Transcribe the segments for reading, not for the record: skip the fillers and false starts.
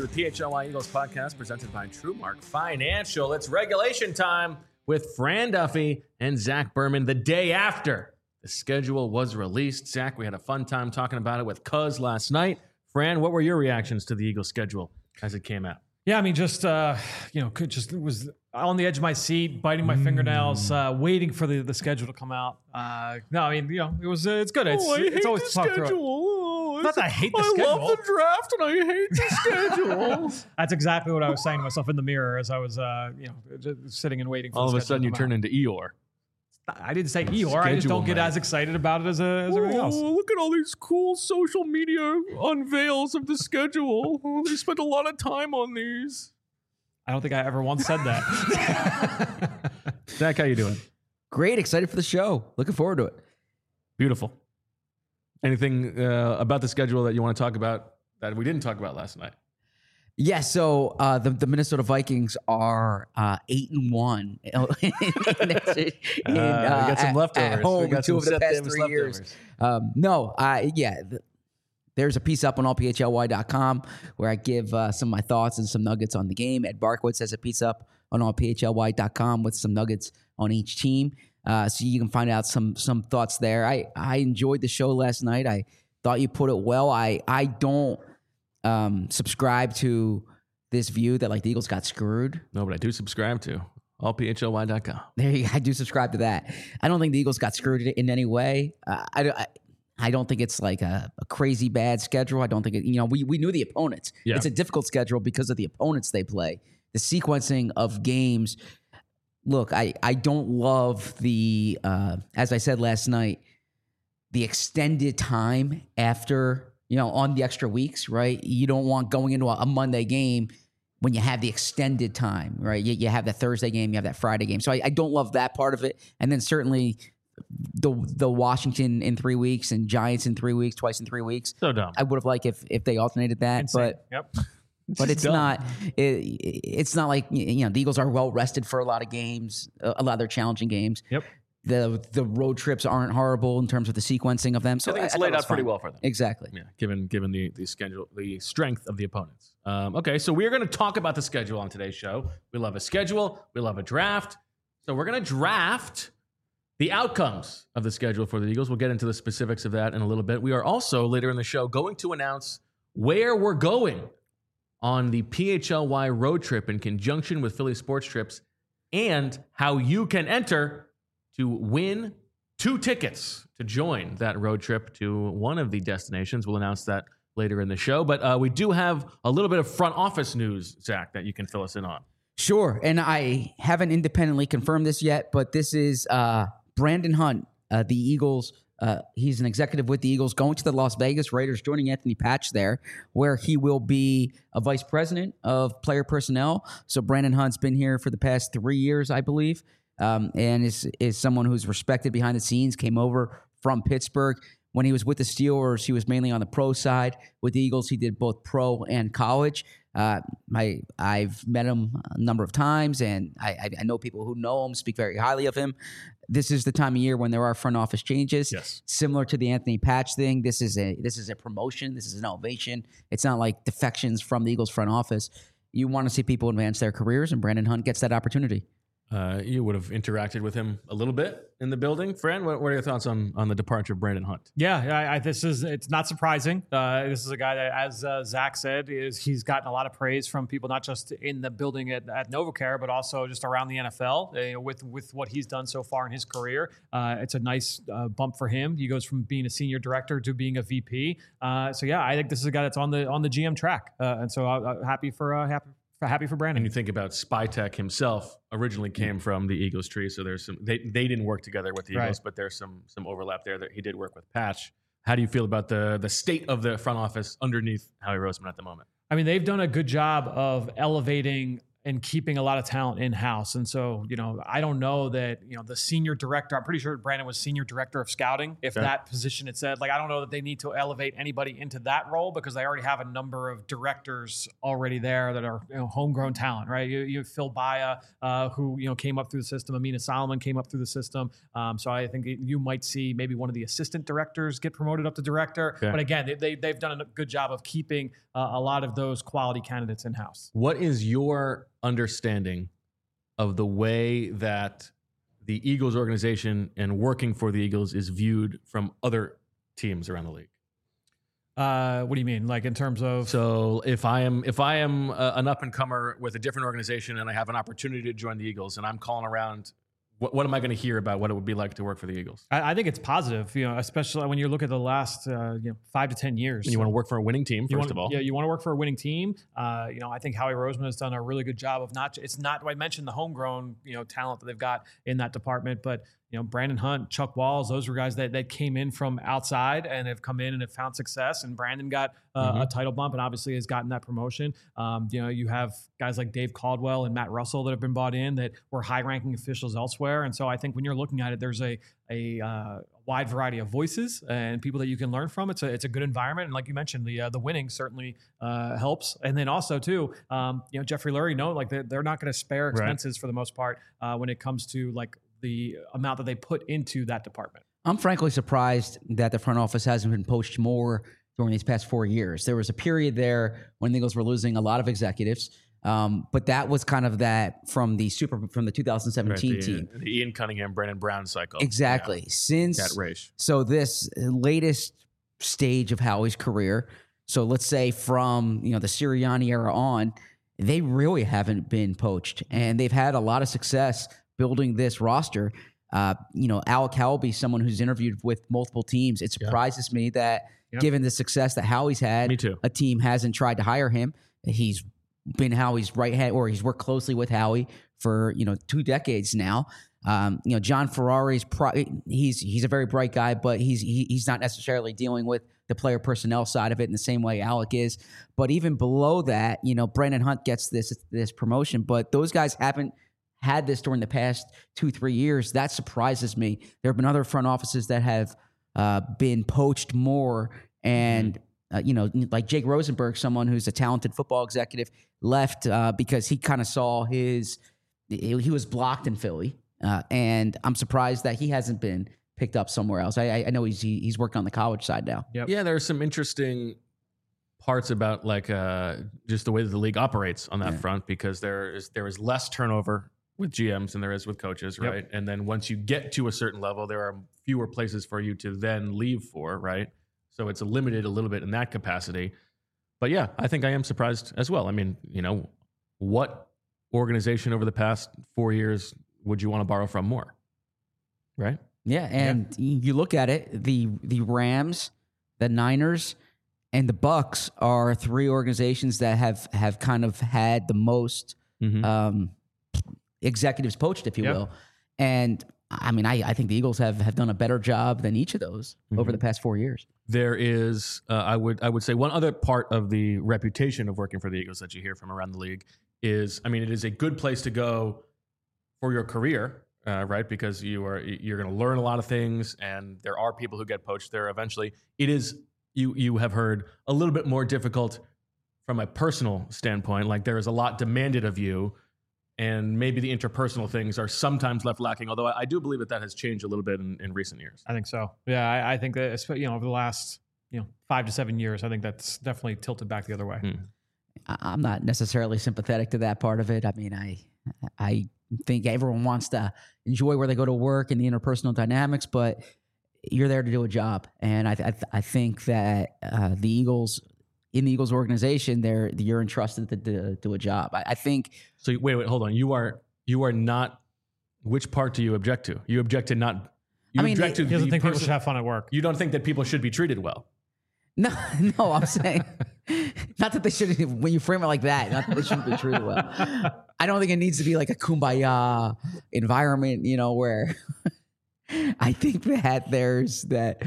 PHLY Eagles podcast presented by TrueMark Financial. It's regulation time with Fran Duffy and Zach Berman the day after the schedule was released. Zach, we had a fun time talking about it with Cuz last night. Fran, what were your reactions to the Eagles schedule as it came out? Yeah, I mean, just was on the edge of my seat, biting my fingernails, waiting for the schedule to come out. No, I mean, it's good. It's always to talk through. Not that I hate the schedule. I love the draft and I hate the schedule. That's exactly what I was saying to myself in the mirror as I was, just sitting and waiting for. All the of a sudden, you turn into Eeyore. I didn't say Eeyore. I just don't get as excited about it as everything else. Look at all these cool social media unveils of the schedule. They spent a lot of time on these. I don't think I ever once said that. Zach, how you doing? Great. Excited for the show. Looking forward to it. Beautiful. Anything about the schedule that you want to talk about that we didn't talk about last night? Yeah, so the Minnesota Vikings are 8-1. Got some leftovers. At home we got two of the past 3 leftovers. years. There's a piece up on allphly.com where I give some of my thoughts and some nuggets on the game. Ed Barkowitz has a piece up on allphly.com with some nuggets on each team. So you can find out some thoughts there. I enjoyed the show last night. I thought you put it well. I don't subscribe to this view that like the Eagles got screwed. No, but I do subscribe to allphly.com. There you go. I do subscribe to that. I don't think the Eagles got screwed in any way. I don't think it's like a crazy bad schedule. I don't think we knew the opponents. Yeah. It's a difficult schedule because of the opponents they play. The sequencing of games. Look, I don't love the as I said last night, the extended time after, on the extra weeks, right? You don't want going into a Monday game when you have the extended time, right? You have that Thursday game, you have that Friday game. So I don't love that part of it. And then certainly the Washington in 3 weeks and Giants in 3 weeks, twice in 3 weeks. So dumb. I would have liked if they alternated that. Insane. But it's not. It's not like the Eagles are well rested for a lot of games, a lot of their challenging games. Yep. The road trips aren't horrible in terms of the sequencing of them. So I think it's thought laid it was out pretty fine. well for them. Exactly. Yeah, given the schedule, the strength of the opponents. Okay, so we're going to talk about the schedule on today's show. We love a schedule. We love a draft. So we're going to draft the outcomes of the schedule for the Eagles. We'll get into the specifics of that in a little bit. We are also later in the show going to announce where we're going on the PHLY road trip in conjunction with Philly Sports Trips and how you can enter to win 2 tickets to join that road trip to one of the destinations. We'll announce that later in the show. But we do have a little bit of front office news, Zach, that you can fill us in on. Sure. And I haven't independently confirmed this yet, but this is Brandon Hunt, the Eagles. He's an executive with the Eagles going to the Las Vegas Raiders, joining Anthony Patch there, where he will be a vice president of player personnel. So Brandon Hunt's been here for the past 3 years, I believe, and is someone who's respected behind the scenes, came over from Pittsburgh. When he was with the Steelers, he was mainly on the pro side. With the Eagles, he did both pro and college. I've met him a number of times, and I know people who know him, speak very highly of him. This is the time of year when there are front office changes. Yes. Similar to the Anthony Patch thing, this is a promotion. This is an elevation. It's not like defections from the Eagles front office. You want to see people advance their careers, and Brandon Hunt gets that opportunity. You would have interacted with him a little bit in the building. Fran, what are your thoughts on the departure of Brandon Hunt? Yeah, it's not surprising. This is a guy that, as Zach said, he's gotten a lot of praise from people, not just in the building at NovaCare, but also just around the NFL with what he's done so far in his career. It's a nice bump for him. He goes from being a senior director to being a VP. I think this is a guy that's on the GM track, and so happy for Brandon. And you think about Spytek himself originally came from the Eagles tree, so there's some they didn't work together with the Eagles, Right. but there's some overlap there that he did work with Patch. How do you feel about the state of the front office underneath Howie Roseman at the moment? I mean, they've done a good job of elevating and keeping a lot of talent in-house. And so, I don't know that, the senior director, I'm pretty sure Brandon was senior director of scouting. If that position had said, I don't know that they need to elevate anybody into that role because they already have a number of directors already there that are, homegrown talent, right? You have Phil Baya, who, came up through the system. Amina Solomon came up through the system. So I think you might see maybe one of the assistant directors get promoted up to director. Okay. But again, they've done a good job of keeping a lot of those quality candidates in-house. What is your understanding of the way that the Eagles organization and working for the Eagles is viewed from other teams around the league? What do you mean? Like in terms of? So if I am an up and comer with a different organization and I have an opportunity to join the Eagles and I'm calling around, what am I going to hear about what it would be like to work for the Eagles? I think it's positive, especially when you look at the last 5 to 10 years. And you want to work for a winning team, first of all. Yeah, you want to work for a winning team. I think Howie Roseman has done a really good job of I mentioned the homegrown, talent that they've got in that department, but Brandon Hunt, Chuck Walls, those were guys that came in from outside and have come in and have found success. And Brandon got a title bump and obviously has gotten that promotion. You have guys like Dave Caldwell and Matt Russell that have been brought in that were high-ranking officials elsewhere. And so I think when you're looking at it, there's a wide variety of voices and people that you can learn from. It's a good environment. And like you mentioned, the winning certainly helps. And then also too, Jeffrey Lurie, they're not going to spare expenses for the most part when it comes to the amount that they put into that department. I'm frankly surprised that the front office hasn't been poached more during these past 4 years. There was a period there when the Eagles were losing a lot of executives, but that was kind of that from the 2017 team. The Ian Cunningham, Brandon Brown cycle. Exactly. Yeah. So this latest stage of Howie's career, so let's say from the Sirianni era on, they really haven't been poached, and they've had a lot of success building this roster. Alec Howell, someone who's interviewed with multiple teams. It surprises me that given the success that Howie's had, a team hasn't tried to hire him. He's been Howie's right hand, or he's worked closely with Howie for 2 decades now. John Ferrari's he's a very bright guy, but he's not necessarily dealing with the player personnel side of it in the same way Alec is. But even below that, Brandon Hunt gets this promotion, but those guys haven't had this during the past 2-3 years. That surprises me. There have been other front offices that have been poached more, and like Jake Rosenberg, someone who's a talented football executive, left because he kind of saw he was blocked in Philly, and I'm surprised that he hasn't been picked up somewhere else. I know he's working on the college side now. Yep. Yeah, there are some interesting parts about just the way that the league operates on that front, because there is less turnover with GMs than there is with coaches, right? Yep. And then once you get to a certain level, there are fewer places for you to then leave for, right? So it's limited a little bit in that capacity. But yeah, I think I am surprised as well. I mean, what organization over the past 4 years would you want to borrow from more, right? Yeah, and you look at it, the Rams, the Niners, and the Bucks are 3 organizations that have kind of had the most executives poached, if you will. And I mean, I think the Eagles have done a better job than each of those over the past 4 years. There is, I would say, one other part of the reputation of working for the Eagles that you hear from around the league is, I mean, it is a good place to go for your career, right? Because you're going to learn a lot of things, and there are people who get poached there eventually. It is, you have heard, a little bit more difficult from a personal standpoint. Like, there is a lot demanded of you, and maybe the interpersonal things are sometimes left lacking, although I do believe that has changed a little bit in recent years. I think so. Yeah, I think that, over the last 5 to 7 years, I think that's definitely tilted back the other way. I'm not necessarily sympathetic to that part of it. I mean, I think everyone wants to enjoy where they go to work and the interpersonal dynamics, but you're there to do a job. And I think that the Eagles, in the Eagles organization, you're entrusted to do a job. I think. So wait, hold on. You are not. Which part do you object to? You object to not. You object to. He doesn't think people should have fun at work. You don't think that people should be treated well. No, I'm saying not that they shouldn't. When you frame it like that, not that they shouldn't be treated well. I don't think it needs to be like a kumbaya environment, where I think that there's that.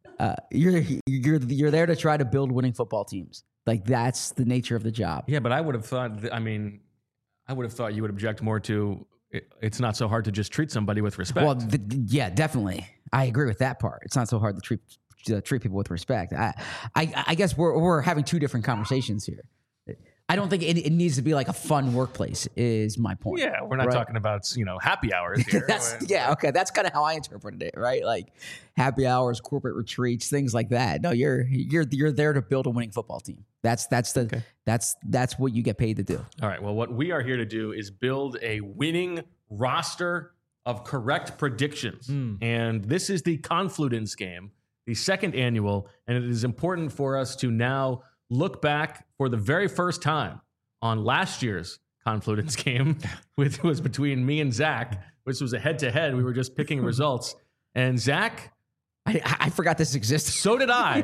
You're there to try to build winning football teams. Like, that's the nature of the job. Yeah, but I would have thought. I mean, I would have thought you would object more to it's not so hard to just treat somebody with respect. Well, yeah, definitely. I agree with that part. It's not so hard to treat people with respect. I guess we're having two different conversations here. I don't think it needs to be like a fun workplace is my point. Yeah, we're not talking about, happy hours here. Okay. That's kind of how I interpreted it, right? Like happy hours, corporate retreats, things like that. No, you're there to build a winning football team. That's what you get paid to do. All right. Well, what we are here to do is build a winning roster of correct predictions. And this is the Confluence game, the second annual, and it is important for us to now look back for the very first time on last year's Confluence game, which was between me and Zach, which was a head-to-head. We were just picking results. And Zach... I forgot this existed. So did I.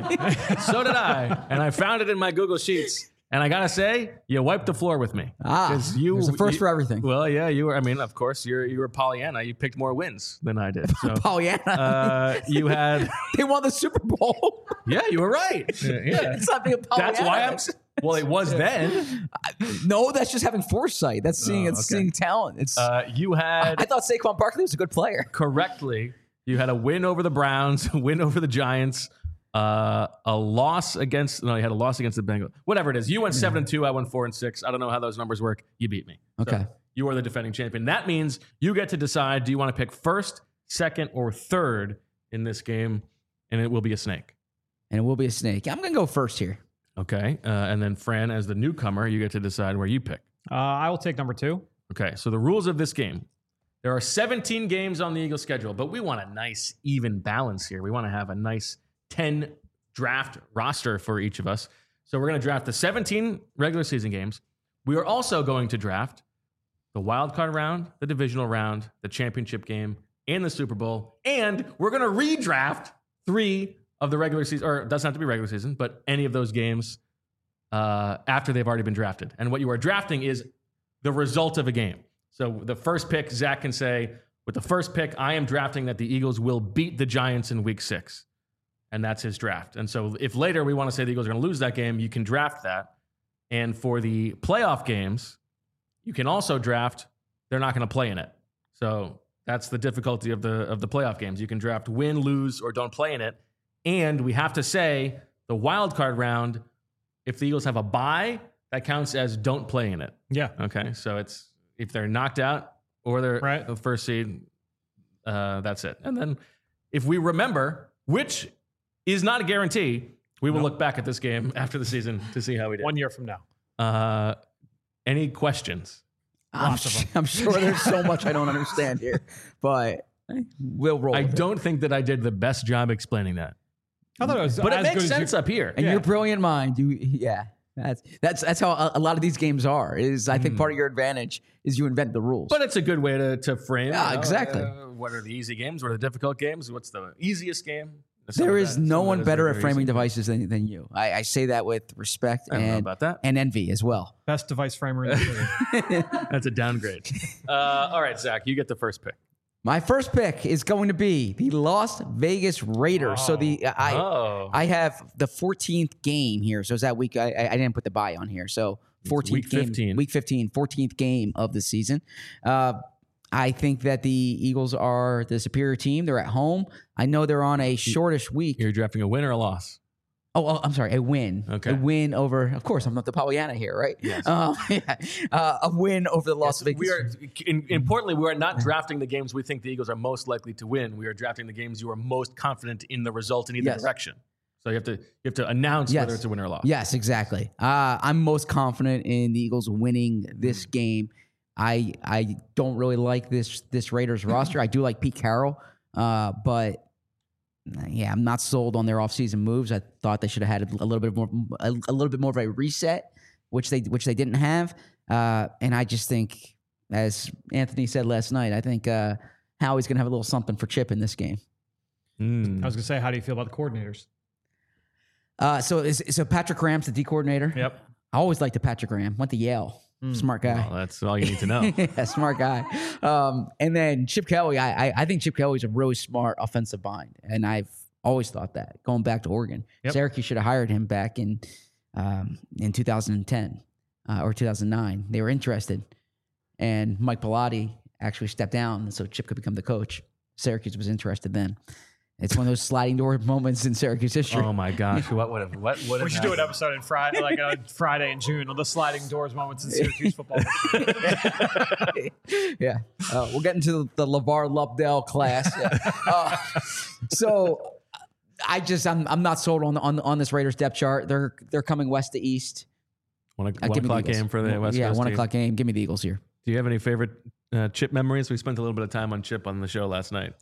And I found it in my Google Sheets. And I got to say, you wiped the floor with me. There's a first for everything. Well, yeah, you were. I mean, of course, you were Pollyanna. You picked more wins than I did. So, Pollyanna. You had... They won the Super Bowl. Yeah, you were right. Yeah. It's not being Pollyanna. That's why well, it was then. No, that's just having foresight. That's seeing seeing talent. It's you had... I thought Saquon Barkley was a good player. Correctly. You had a win over the Browns, a win over the Giants, a loss against... No, you had a loss against the Bengals. Whatever it is. You went 7-2. I went 4-6. I don't know how those numbers work. You beat me. Okay. So you are the defending champion. That means you get to decide, do you want to pick first, second, or third in this game? And it will be a snake. And it will be a snake. I'm going to go first here. Okay. And then Fran, as the newcomer, you get to decide where you pick. I will take number 2. Okay. So the rules of this game. There are 17 games on the Eagles schedule, but we want a nice, even balance here. We want to have a nice 10 draft roster for each of us. So we're going to draft the 17 regular season games. We are also going to draft the wild card round, the divisional round, the championship game, and the Super Bowl. And we're going to redraft 3 of the regular season, or it doesn't have to be regular season, but any of those games after they've already been drafted. And what you are drafting is the result of a game. So the first pick, Zach can say, with the first pick, I am drafting that the Eagles will beat the Giants in week 6. And that's his draft. And so if later we want to say the Eagles are going to lose that game, you can draft that. And for the playoff games, you can also draft they're not going to play in it. So that's the difficulty of the playoff games. You can draft win, lose, or don't play in it. And we have to say the wild card round, if the Eagles have a bye, that counts as don't play in it. Yeah. Okay. So it's if they're knocked out or they're the first seed, that's it. And then if we remember, which is not a guarantee, we will look back at this game after the season to see how we did. 1 year from now. Any questions? I'm sure there's so much I don't understand here, but we'll roll. I don't think that I did the best job explaining that. I thought it was but it as makes good sense up here. And your brilliant mind, that's how a lot of these games are. I think part of your advantage is you invent the rules. But it's a good way to frame. Yeah, exactly. What are the easy games? What are the difficult games? What's the easiest game? There is no one better at framing devices than you. I say that with respect and envy as well. Best device framer in the city. That's a downgrade. All right, Zach, you get the first pick. My first pick is going to be the Las Vegas Raiders. So I have the 14th game here. So is that week? I didn't put the bye on here. So 14th week 15. Week 15, 14th game of the season. I think that the Eagles are the superior team. They're at home. I know they're on a shortish week. You're drafting a win or a loss? Oh, I'm sorry, a win. Okay. A win over, of course, I'm not the Pollyanna here, right? Yes. A win over the Las Vegas. Importantly, we are not drafting the games we think the Eagles are most likely to win. We are drafting the games you are most confident in the result in either direction. So you have to announce whether it's a win or a loss. Yes, exactly. I'm most confident in the Eagles winning this game. I don't really like this Raiders roster. I do like Pete Carroll, but yeah, I'm not sold on their offseason moves. I thought they should have had a little bit more of a reset, which they didn't have. And I just think, as Anthony said last night, I think Howie's going to have a little something for Chip in this game. I was going to say, how do you feel about the coordinators? So Patrick Graham's the D coordinator. Yep. I always liked the Patrick Graham. Went to Yale. Smart guy. Well, that's all you need to know. Yeah, smart guy. And then Chip Kelly, I think Chip Kelly's a really smart offensive mind. And I've always thought that, going back to Oregon. Yep. Syracuse should have hired him back in 2010 or 2009. They were interested. and Mike Bellotti actually stepped down so Chip could become the coach. Syracuse was interested then. It's one of those sliding door moments in Syracuse history. Oh my gosh! What would have? We should do an episode in Friday, like on Friday in June, on the sliding doors moments in Syracuse football. Yeah, we'll get into the LeVar Lupdell class. Yeah. So I'm not sold on this Raiders depth chart. They're coming west to east. One Give me the o'clock Eagles. game for the West Coast. Yeah, 1 team. o'clock game. Give me the Eagles here. Do you have any favorite Chip memories? We spent a little bit of time on Chip on the show last night.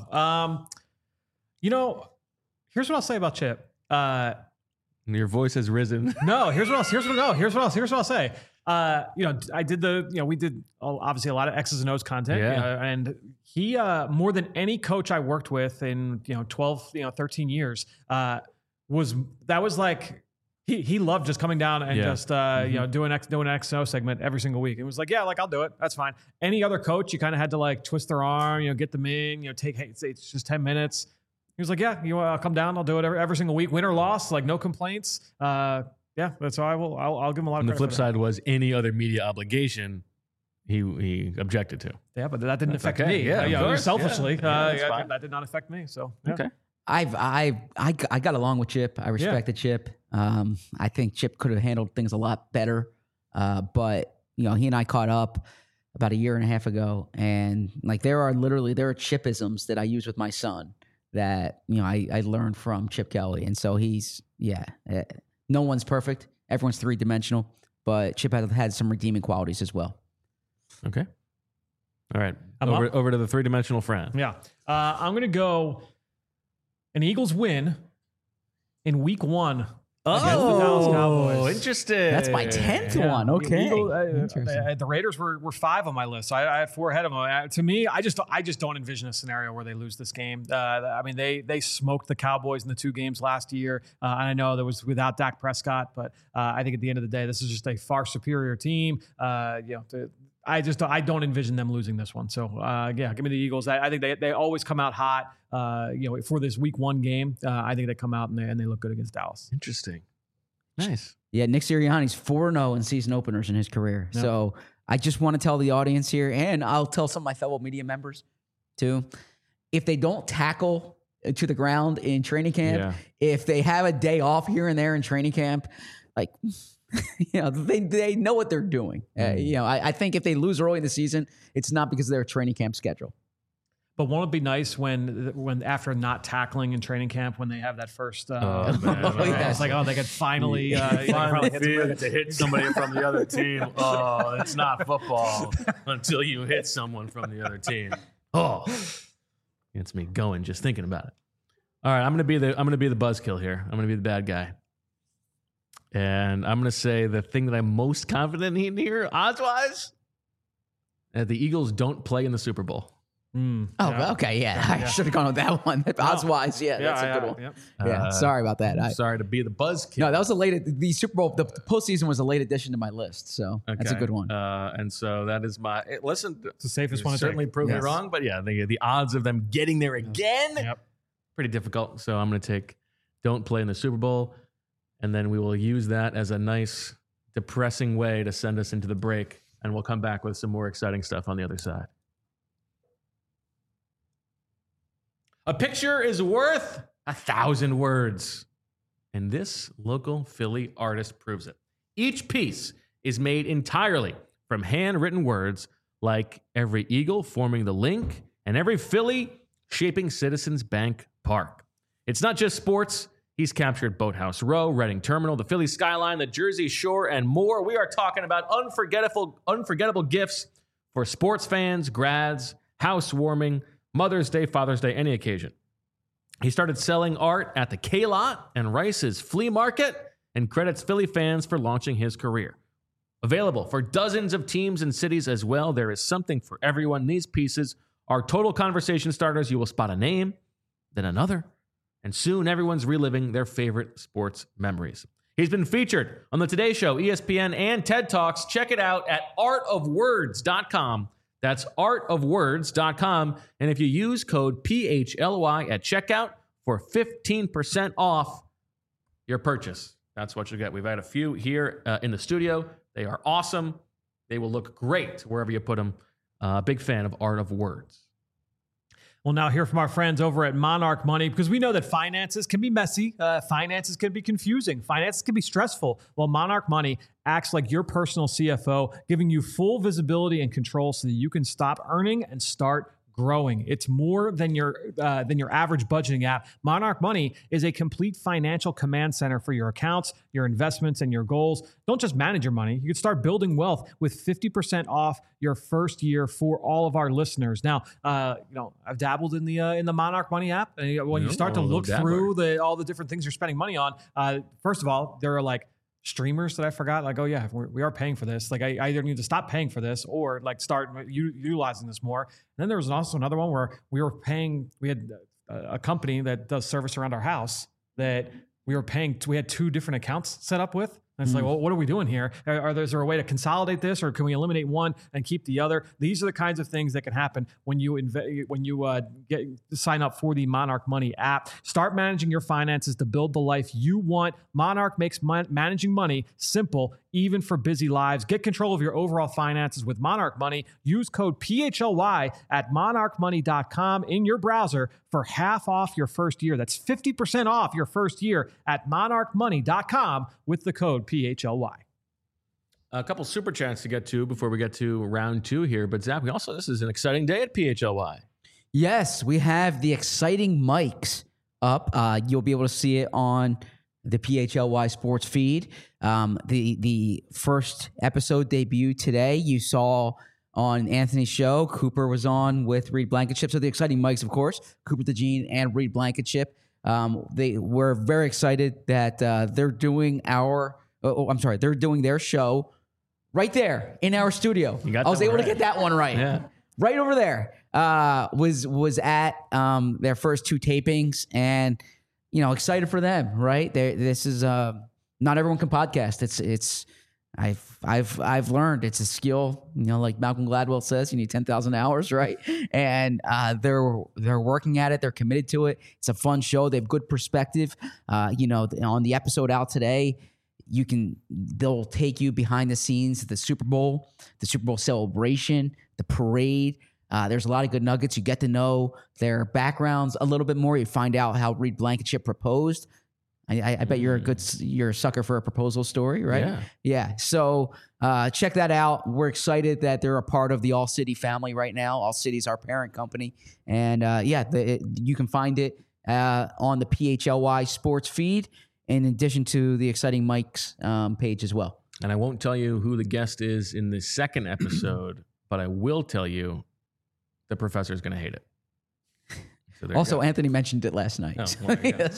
Here's what I'll say about Chip. Your voice has risen. No, here's what I'll say. I did we did obviously a lot of X's and O's content. Yeah. And he, more than any coach I worked with in, 12, 13 years, was like, he loved just coming down and just, doing an X and O segment every single week. It was like, yeah, like I'll do it. That's fine. Any other coach, you kind of had to like twist their arm, get them in, it's just 10 minutes. He was like, yeah, I'll come down. I'll do it every single week. Win or loss, like no complaints. That's how I'll give him a lot of And the credit flip for that. side was any other media obligation he objected to. Yeah, but that didn't affect okay. me. Yeah, of course. Selfishly, Yeah, that's fine. that did not affect me. So yeah. Okay. I got along with Chip. I respected Chip. I think Chip could have handled things a lot better. But he and I caught up about a year and a half ago, and like there are Chipisms that I use with my son that I learned from Chip Kelly, and so no one's perfect. Everyone's 3-dimensional, but Chip had some redeeming qualities as well. Okay. All right. I'm Over to the 3-dimensional friend. Yeah. I'm going to go an Eagles win in week 1 against the Dallas Cowboys. Interesting. That's my 10th one. Okay. Interesting. The Raiders were 5 on my list. So I had 4 ahead of them. To me, I just don't envision a scenario where they lose this game. They smoked the Cowboys in the 2 games last year. And I know that was without Dak Prescott, but I think at the end of the day, this is just a far superior team. I don't envision them losing this one. So give me the Eagles. I think they always come out hot. For this week 1 game, I think they come out and they look good against Dallas. Interesting. Nice. Yeah, Nick Sirianni's 4-0 in season openers in his career. Yep. So I just want to tell the audience here, and I'll tell some of my fellow media members too, if they don't tackle to the ground in training camp, if they have a day off here and there in training camp, like they know what they're doing. I think if they lose early in the season, it's not because of their training camp schedule. But won't it be nice when after not tackling in training camp, when they have that first, it's like, they could finally, finally feel to hit somebody from the other team. Oh, it's not football until you hit someone from the other team. Oh, it's me going just thinking about it. All right, I'm gonna be the buzzkill here. I'm gonna be the bad guy, and I'm gonna say the thing that I'm most confident in here, odds-wise, that the Eagles don't play in the Super Bowl. Okay, yeah. I should have gone with that one. Odds-wise, that's a good one. Yeah, sorry about that. I'm sorry to be the buzzkill. No, that was the Super Bowl. The postseason was a late addition to my list, so that's a good one. And so that is my listen. It's the safest one to certainly take. prove me wrong, but yeah, the odds of them getting there again, pretty difficult. So I'm going to take don't play in the Super Bowl, and then we will use that as a nice depressing way to send us into the break, and we'll come back with some more exciting stuff on the other side. A picture is worth 1,000 words. And this local Philly artist proves it. Each piece is made entirely from handwritten words, like every eagle forming the link and every Philly shaping Citizens Bank Park. It's not just sports. He's captured Boathouse Row, Reading Terminal, the Philly skyline, the Jersey Shore, and more. We are talking about unforgettable gifts for sports fans, grads, housewarming, Mother's Day, Father's Day, any occasion. He started selling art at the K-Lot and Rice's Flea Market and credits Philly fans for launching his career. Available for dozens of teams and cities as well, there is something for everyone. These pieces are total conversation starters. You will spot a name, then another, and soon everyone's reliving their favorite sports memories. He's been featured on The Today Show, ESPN, and TED Talks. Check it out at artofwords.com. That's artofwords.com. And if you use code PHLY at checkout for 15% off your purchase, that's what you'll get. We've had a few here in the studio. They are awesome. They will look great wherever you put them. Big fan of Art of Words. We'll now hear from our friends over at Monarch Money, because we know that finances can be messy. Finances can be confusing. Finances can be stressful. Well, Monarch Money acts like your personal CFO, giving you full visibility and control so that you can stop earning and start growing. It's more than your average budgeting app. Monarch Money is a complete financial command center for your accounts, your investments, and your goals. Don't just manage your money. You can start building wealth with 50% off your first year for all of our listeners. Now, I've dabbled in the Monarch Money app. And when you start to look through all the different things you're spending money on, first of all, there are like streamers that I forgot, like, oh yeah, we are paying for this. Like I either need to stop paying for this or like start utilizing this more. And then there was also another one where we had a company that does service around our house that we had 2 different accounts set up with. And it's like, well, what are we doing here? Is there a way to consolidate this, or can we eliminate one and keep the other? These are the kinds of things that can happen when you sign up for the Monarch Money app. Start managing your finances to build the life you want. Monarch makes managing money simple, even for busy lives. Get control of your overall finances with Monarch Money. Use code PHLY at monarchmoney.com in your browser for half off your first year. That's 50% off your first year at monarchmoney.com with the code PHLY. A couple super chats to get to before we get to round 2 here. But Zach, this is an exciting day at PHLY. Yes, we have the exciting mics up. You'll be able to see it on the PHLY sports feed. The first episode debuted today. You saw on Anthony's show, Cooper was on with Reed Blankenship. So the exciting mics, of course, Cooper DeJean and Reed Blankenship. They were very excited that they're doing they're doing their show right there in our studio. I was able to get that one right. Yeah. Right over there. Was at their first 2 tapings, and excited for them, right? This is not everyone can podcast. I've learned it's a skill, like Malcolm Gladwell says, you need 10,000 hours, right? And they're working at it. They're committed to it. It's a fun show. They have good perspective. On the episode out today, they'll take you behind the scenes of the Super Bowl celebration, the parade. There's a lot of good nuggets. You get to know their backgrounds a little bit more. You find out how Reed Blankenship proposed. I bet you're a sucker for a proposal story, right? Yeah. So check that out. We're excited that they're a part of the All City family right now. All City's our parent company. And you can find it on the PHLY sports feed, in addition to the Exciting Mike's page as well. And I won't tell you who the guest is in the second episode, but I will tell you the professor is going to hate it. So also, Anthony mentioned it last night. Oh, well, yes.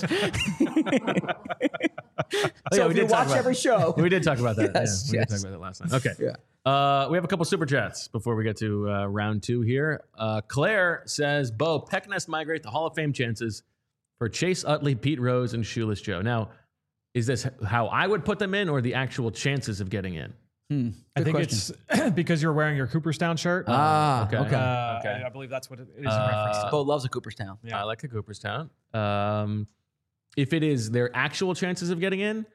So if you watch every show. We did talk about that. Yes, we did talk about that last night. Okay. Yeah. We have a couple super chats before we get to round 2 here. Claire says, Bo, Peck Nest migrate the Hall of Fame chances for Chase Utley, Pete Rose, and Shoeless Joe. Now, is this how I would put them in, or the actual chances of getting in? I think it's because you're wearing your Cooperstown shirt. Okay. I believe that's what it is in reference to. Bo loves a Cooperstown. Yeah. I like a Cooperstown. If it is their actual chances of getting in,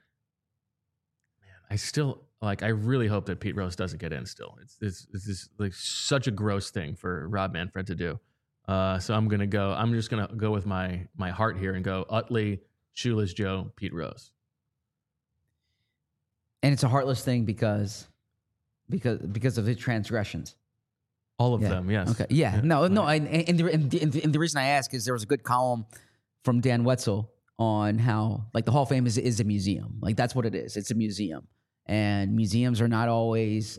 man, I really hope that Pete Rose doesn't get in still. It's like such a gross thing for Rob Manfred to do. So I'm just gonna go with my heart here and go Utley, Shoeless Joe, Pete Rose. And it's a heartless thing because of his transgressions. All of them, yes. Okay. Yeah. No. And the reason I ask is there was a good column from Dan Wetzel on how like the Hall of Fame is a museum. Like that's what it is. It's a museum, and museums are not always,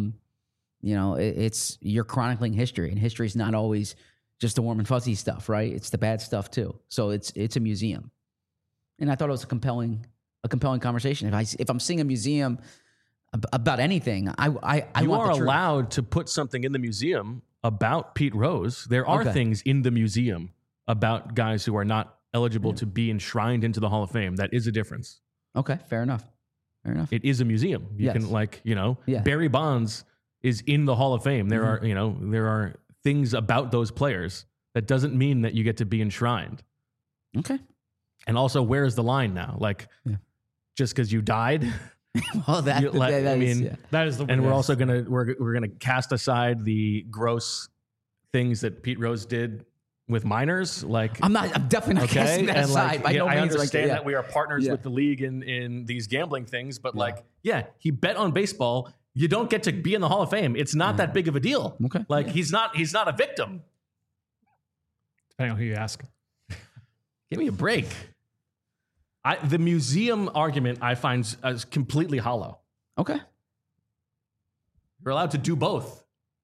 it's you're chronicling history, and history is not always just the warm and fuzzy stuff, right? It's the bad stuff too. So it's a museum, and I thought it was a compelling conversation. If I'm seeing a museum about anything, I you want are the truth. allowed to put something in the museum about Pete Rose. There are things in the museum about guys who are not eligible to be enshrined into the Hall of Fame. That is a difference. Okay, fair enough. It is a museum. You can Barry Bonds is in the Hall of Fame. There are things about those players that doesn't mean that you get to be enshrined. Okay. And also, where's the line now? Like, just because you died Well, that is, yeah. That is the And we're also we're gonna cast aside the gross things that Pete Rose did with minors. Like I'm definitely not casting that aside. By no I means, understand yeah. that we are partners Yeah. with the league in these gambling things, but he bet on baseball. You don't get to be in the Hall of Fame. It's not that big of a deal. Okay. Like he's not a victim. Depending on who you ask. Give me a break. The museum argument I find is completely hollow. Okay. You're allowed to do both.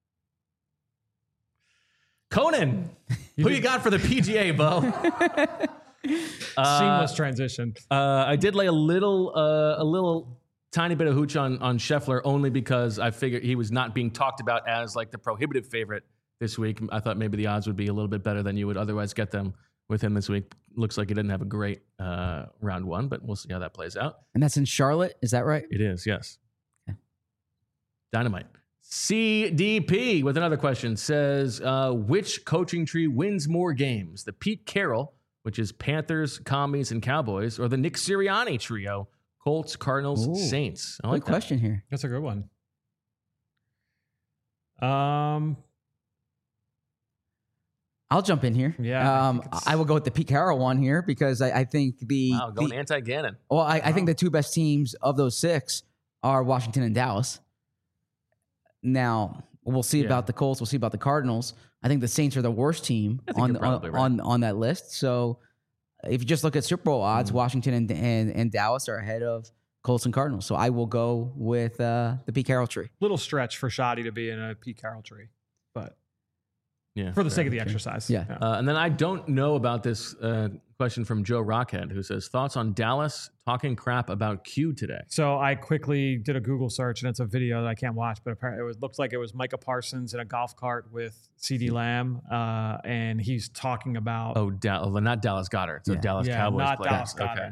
Conan, who you got for the PGA, Bo? Seamless transition. I did lay a little tiny bit of hooch on Scheffler only because I figured he was not being talked about as like the prohibitive favorite this week. I thought maybe the odds would be a little bit better than you would otherwise get them with him this week. Looks like he didn't have a great round one, but we'll see how that plays out. And that's in Charlotte, is that right? It is, yes. Okay. Dynamite. CDP with another question says, which coaching tree wins more games? The Pete Carroll, which is Panthers, Commies, and Cowboys, or the Nick Sirianni trio, Colts, Cardinals, Saints? I like Good question here. That's a good one. I'll jump in here. Yeah, I will go with the Pete Carroll one here because I think going anti-Gannon. Well, I think the two best teams of those six are Washington and Dallas. Now we'll see about the Colts. We'll see about the Cardinals. I think the Saints are the worst team on that list. So if you just look at Super Bowl odds, Washington and Dallas are ahead of Colts and Cardinals. So I will go with the Pete Carroll tree. Little stretch for Shoddy to be in a Pete Carroll tree, but for the sake of the exercise. Yeah. And then I don't know about this question from Joe Rockhead, who says, thoughts on Dallas talking crap about Q today? So I quickly did a Google search, and it's a video that I can't watch, but apparently it looks like it was Micah Parsons in a golf cart with CeeDee Lamb, and he's talking about... Oh, not Dallas Goedert. So Dallas Cowboys not player. Dallas Goedert,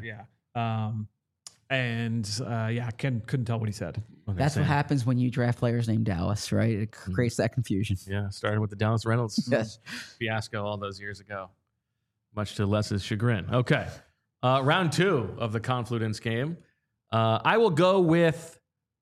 couldn't tell what he said. That's what happens when you draft players named Dallas, right? It creates that confusion. Yeah, starting with the Dallas Reynolds Yes. fiasco all those years ago, much to Les's chagrin. Okay, round two of the Confluence game. I will go with.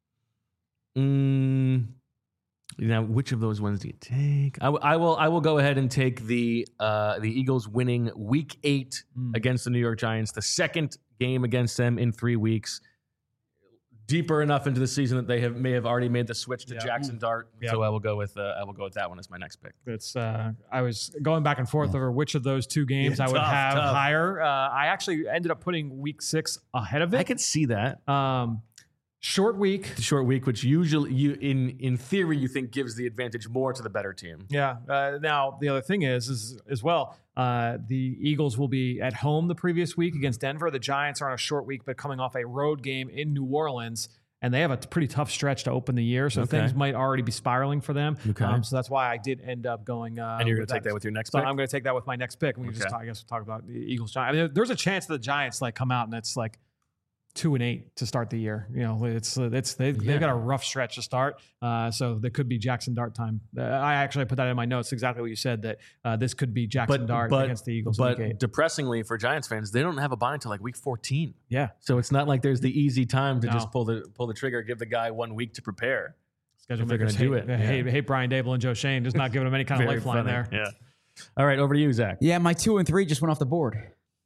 Which of those ones do you take? I will go ahead and take the Eagles winning Week 8 against the New York Giants, the second game against them in 3 weeks. Deeper enough into the season that they may have already made the switch to Jackson Dart. Yep. So I will go with that one as my next pick. It's I was going back and forth over which of those two games I would have higher. I actually ended up putting Week 6 ahead of it. I could see that. Short week. The short week, which usually in theory you think gives the advantage more to the better team. Yeah. Now the other thing is as well, the Eagles will be at home the previous week against Denver. The Giants are on a short week, but coming off a road game in New Orleans, and they have a pretty tough stretch to open the year, so things might already be spiraling for them. Okay. So that's why I did end up going. And you're going to take that with your next pick? I'm going to take that with my next pick. We can just talk about the Eagles Giants. I mean, there's a chance that the Giants come out and it's 2-8 to start the year. They've got a rough stretch to start. So there could be Jackson Dart time. I actually put that in my notes, exactly what you said, that this could be Jackson Dart against the Eagles. But depressingly for Giants fans, they don't have a bye until week 14. Yeah. So it's not like there's the easy time to just pull the trigger, give the guy 1 week to prepare. Schedule they're going to do it. Hate Brian Dable and Joe Shane, just not giving them any kind of lifeline there. Yeah. All right, over to you, Zach. Yeah, my 2 and 3 just went off the board.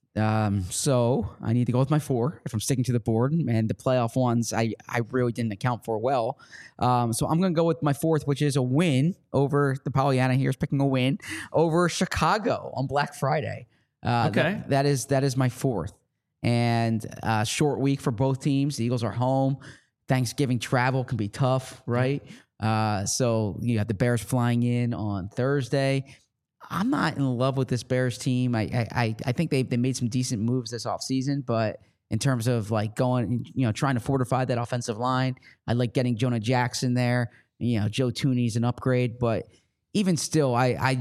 So I need to go with my 4 if I'm sticking to the board, and the playoff ones I really didn't account for well. So I'm going to go with my 4th, which is a win over the Pollyanna here is picking a win over Chicago on Black Friday. Okay. That is my 4th, and short week for both teams. The Eagles are home. Thanksgiving travel can be tough, right? So you have the Bears flying in on Thursday. I'm not in love with this Bears team. I think they made some decent moves this offseason, but in terms of going, trying to fortify that offensive line, I like getting Jonah Jackson there. Joe Thuney's an upgrade, but even still, I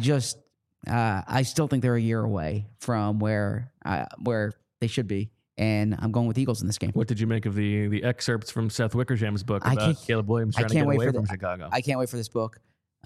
still think they're a year away from where they should be, and I'm going with Eagles in this game. What did you make of the excerpts from Seth Wickersham's book about Caleb Williams trying to get away from Chicago? I can't wait for this book.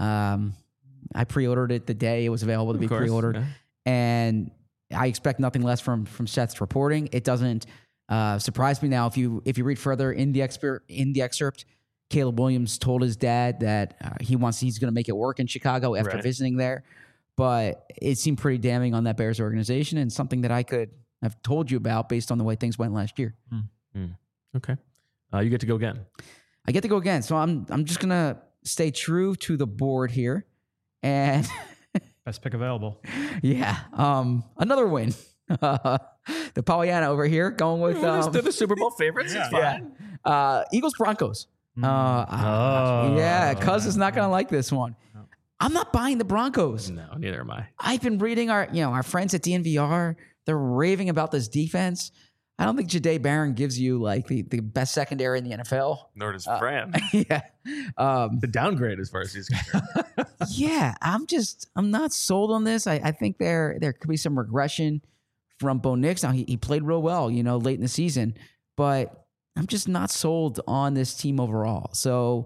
I pre-ordered it the day it was available to be pre-ordered, and I expect nothing less from Seth's reporting. It doesn't Surprised me now. If you read further in the excerpt, Caleb Williams told his dad that he's going to make it work in Chicago after Right. visiting there. But it seemed pretty damning on that Bears organization, and something that I could have told you about based on the way things went last year. Okay. You get to go again. I get to go again, so I'm just gonna stay true to the board here, and Best pick available. yeah, another win. The Pollyanna over here going with They're the Super Bowl favorites. It's fine. Eagles Broncos. Yeah, Cuz is not gonna like this one. I'm not buying the Broncos. No, neither am I. I've been reading our friends at DNVR. They're raving about this defense. I don't think Jahdae Barron gives you like the best secondary in the NFL. Nor does Fran. Yeah. The downgrade as far as he's concerned. Yeah, I'm not sold on this. I think there could be some regression from Bo Nix. Now he played real well, late in the season, but I'm just not sold on this team overall. So,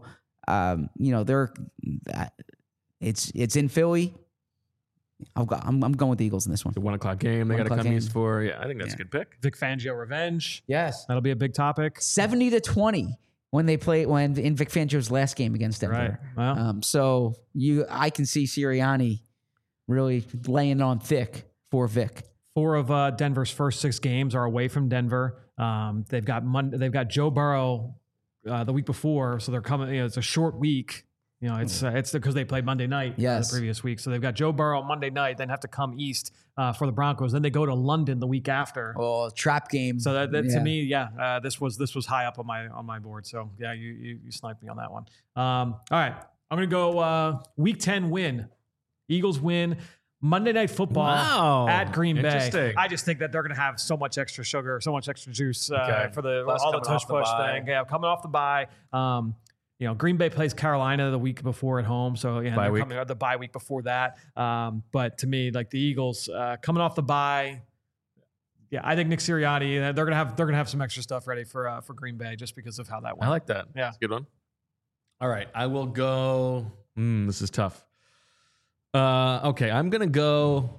it's in Philly. I'm going with the Eagles in this one. The 1 o'clock game they got to 1 o'clock come game. east for. Yeah, I think that's a good pick. Vic Fangio revenge. Yes, That'll be a big topic. 70-20 when in Vic Fangio's last game against Denver. Right. Well, So I can see Sirianni really laying on thick for Vic. 4 of Denver's first 6 games are away from Denver. They've got Joe Burrow the week before, so they're coming. It's a short week. It's because they played Monday night Yes. the previous week. So they've got Joe Burrow Monday night, then have to come east for the Broncos. Then they go to London the week after. Oh, trap game. So that to Yeah. me, this was high up on my board. So yeah, you sniped me on that one. All right, I'm gonna go week 10 win. Eagles win. Monday Night Football Wow. at Green Bay. Interesting. I just think that they're going to have so much extra sugar, so much extra juice Okay. for Plus all the coming tush off the push bye. thing. Yeah, coming off the bye. Green Bay plays Carolina the week before at home, so yeah, Bye they're week. coming out the bye week before that. But to me, like the Eagles coming off the bye, yeah, I think Nick Sirianni they're gonna have some extra stuff ready for Green Bay just because of how that went. I like that. Yeah. That's a good one. All right. I will go. This is tough. Okay. I'm going to go.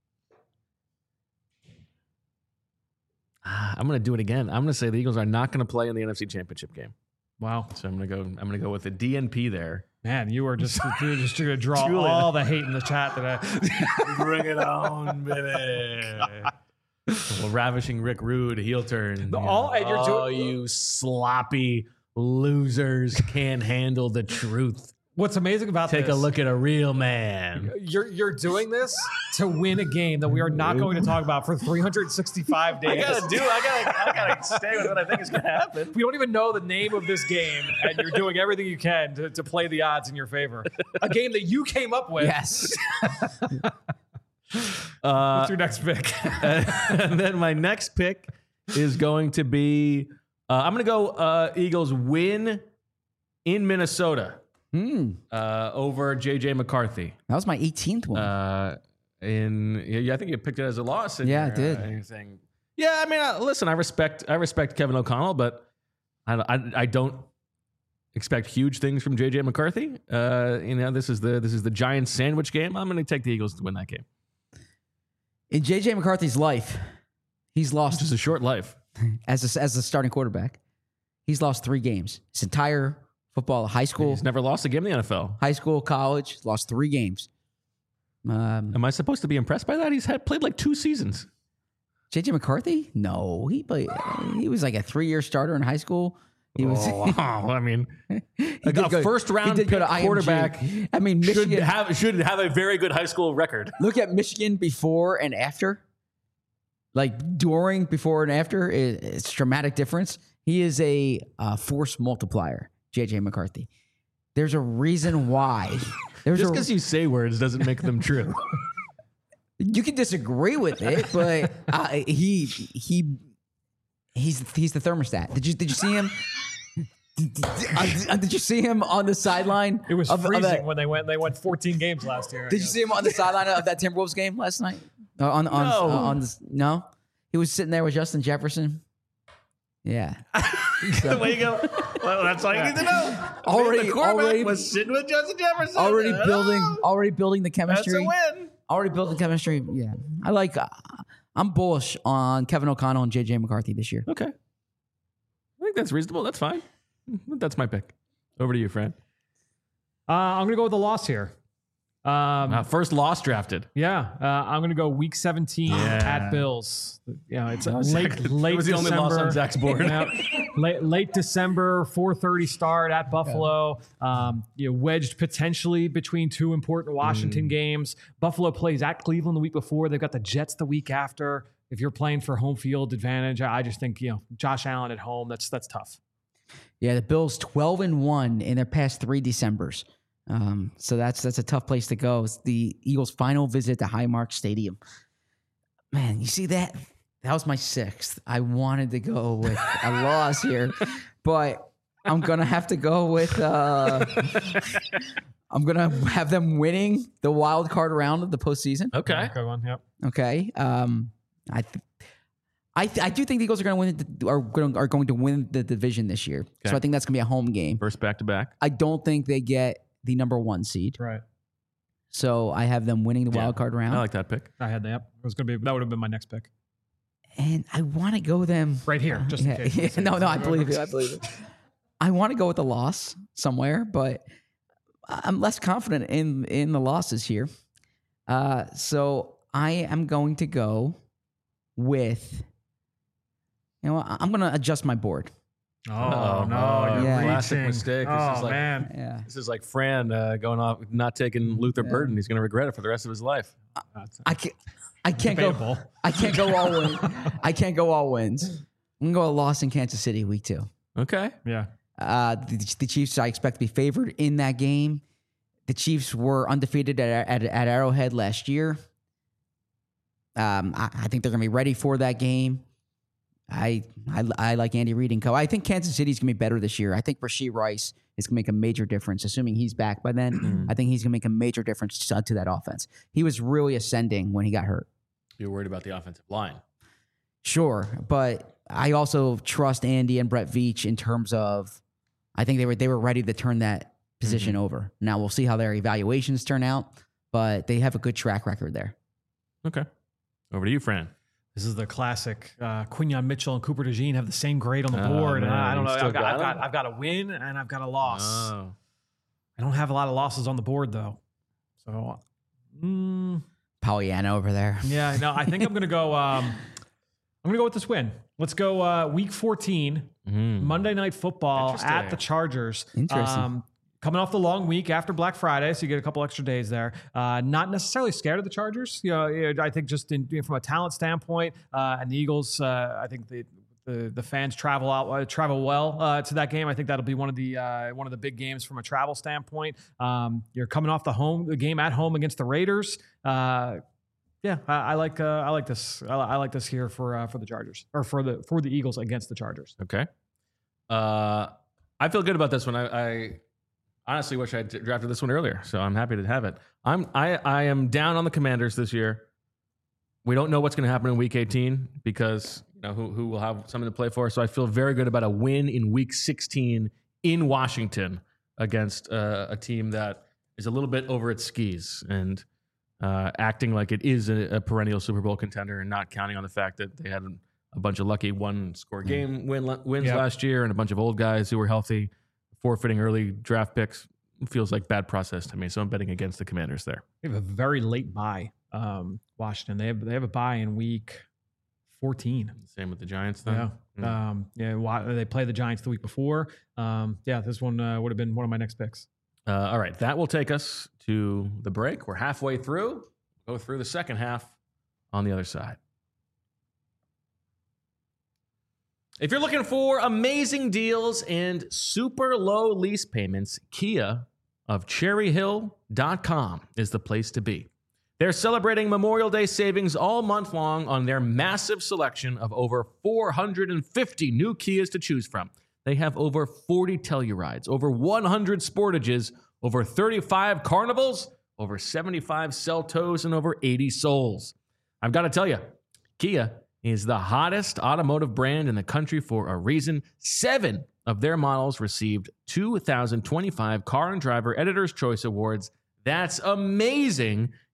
I'm going to do it again. I'm going to say the Eagles are not going to play in the NFC Championship game. Wow, So I'm going to go with the DNP there. man, you were just going to draw Julian. all the hate in the chat today. Bring it on, baby. Well, ravishing Rick Rude, heel turn. And you're doing- You sloppy losers can't handle the truth. What's amazing about Take this, a look at a real man. You're doing this to win a game that we are not going to talk about for 365 days. I gotta stay with what I think is gonna happen. We don't even know the name of this game, and you're doing everything you can to play the odds in your favor. A game that you came up with. Yes. What's your next pick? And then my next pick is going to be I'm gonna go Eagles win in Minnesota over JJ McCarthy. That was my 18th one. I think you picked it as a loss. Yeah, I did. Anything. Yeah, I mean, listen, I respect Kevin O'Connell, but I don't expect huge things from JJ McCarthy. This is the Giants sandwich game. I'm going to take the Eagles to win that game. In JJ McCarthy's life, he's lost Just a short life. as a starting quarterback. He's lost 3 games. His entire football, high school, He's never lost a game in the NFL. college, lost 3 games. Am I supposed to be impressed by that? He's played like 2 seasons. JJ McCarthy? No, he was like a 3-year starter in high school. He was Wow. I mean, he a did go- first round he did go pick to IMG. quarterback I mean, should Michigan. have a very good high school record. Look at Michigan before and after. Like before and after, it's a dramatic difference. He is a force multiplier, JJ McCarthy. There's a reason why. Just because you say words doesn't make them true. You can disagree with it, but he's the thermostat. Did you see him? Did you see him on the sideline? It was of freezing that- when they went 14 games last year. Did you see him on the sideline of that Timberwolves game last night? No, he was sitting there with Justin Jefferson. Yeah, The way you go. Well, that's all you need to know. Already- the quarterback already- was sitting with Justin Jefferson. already Hello. building the That's chemistry. a win. Already building chemistry. Yeah, I'm I'm bullish on Kevin O'Connell and JJ McCarthy this year. Okay. I think that's reasonable. That's fine. That's my pick. Over to you, Fran. I'm going to go with the loss here. First loss drafted. Yeah, I'm going to go week 17 at Bills. It's late It was the only loss on Zach's board. late December, 4:30 start at Buffalo. Wedged potentially between two important Washington games. Buffalo plays at Cleveland the week before. They've got the Jets the week after. If you're playing for home field advantage, I just think Josh Allen at home. That's tough. Yeah, the Bills 12-1 in their past 3 Decembers. So that's a tough place to go. It's the Eagles' final visit to Highmark Stadium. Man, you see that? That was my 6th. I wanted to go with a loss here, but I'm gonna have to go with. I'm gonna have them winning the wild card round of the postseason. Okay. Good one. Yep. Okay. I do think the Eagles are going to win the division this year. Okay. So I think that's going to be a home game. First back-to-back. I don't think they get the number 1 seed. Right. So I have them winning the wild card round. I like that pick. I had that. Yep. That would have been my next pick. And I want to go them Right here, just in case. No, I believe you. I want to go with the loss somewhere, but I'm less confident in the losses here. So I am going to go with. I'm going to adjust my board. Oh, no. You're Yeah. Classic reaching. mistake. Oh, This is like, man. Yeah. This is like Fran going off, not taking Luther Burden. He's going to regret it for the rest of his life. I can't Debatable. go. I can't go all wins. I can't go all wins. I'm going to go a loss in Kansas City week 2. Okay. Yeah. The Chiefs, I expect to be favored in that game. The Chiefs were undefeated at Arrowhead last year. I think they're going to be ready for that game. I like Andy Reid and co. I think Kansas City's going to be better this year. I think Rashee Rice is going to make a major difference, assuming he's back by then. I think he's going to make a major difference to that offense. He was really ascending when he got hurt. You're worried about the offensive line. Sure, but I also trust Andy and Brett Veach in terms of I think they were ready to turn that position over. Now we'll see how their evaluations turn out, but they have a good track record there. Okay. Over to you, Fran. This is the classic. Quinyon Mitchell and Cooper DeJean have the same grade on the board, and man, I don't know. you still I've got a win and I've got a loss. Oh. I don't have a lot of losses on the board though, so Pollyanna over there. yeah. No, I think I'm gonna go. I'm gonna go with this win. Let's go. Week 14, Monday Night Football at the Chargers. Interesting. Coming off the long week after Black Friday, so you get a couple extra days there. Not necessarily scared of the Chargers. I think just from a talent standpoint, and the Eagles. I think the fans travel well to that game. I think that'll be one of the big games from a travel standpoint. You're coming off the game at home against the Raiders. I like this. I like this here for the Chargers or for the Eagles against the Chargers. Okay. I feel good about this one. I honestly wish I had drafted this one earlier, so I'm happy to have it. I am down on the Commanders this year. We don't know what's going to happen in Week 18 because who will have something to play for. So I feel very good about a win in Week 16 in Washington against a team that is a little bit over its skis and acting like it is a perennial Super Bowl contender and not counting on the fact that they had a bunch of lucky one-score game wins last year and a bunch of old guys who were healthy. Forfeiting early draft picks feels like bad process to me, so I'm betting against the Commanders there. They have a very late bye, Washington. They have a bye in week 14. Same with the Giants, then. Yeah. They play the Giants the week before. This one would have been one of my next picks. All right, that will take us to the break. We're halfway through. Go through the second half on the other side. If you're looking for amazing deals and super low lease payments, Kia of CherryHill.com is the place to be. They're celebrating Memorial Day savings all month long on their massive selection of over 450 new Kias to choose from. They have over 40 Tellurides, over 100 Sportages, over 35 Carnivals, over 75 Seltos, and over 80 Souls. I've got to tell you, Kia is the hottest automotive brand in the country for a reason. 7 of their models received 2025 Car and Driver Editor's Choice Awards. That's amazing.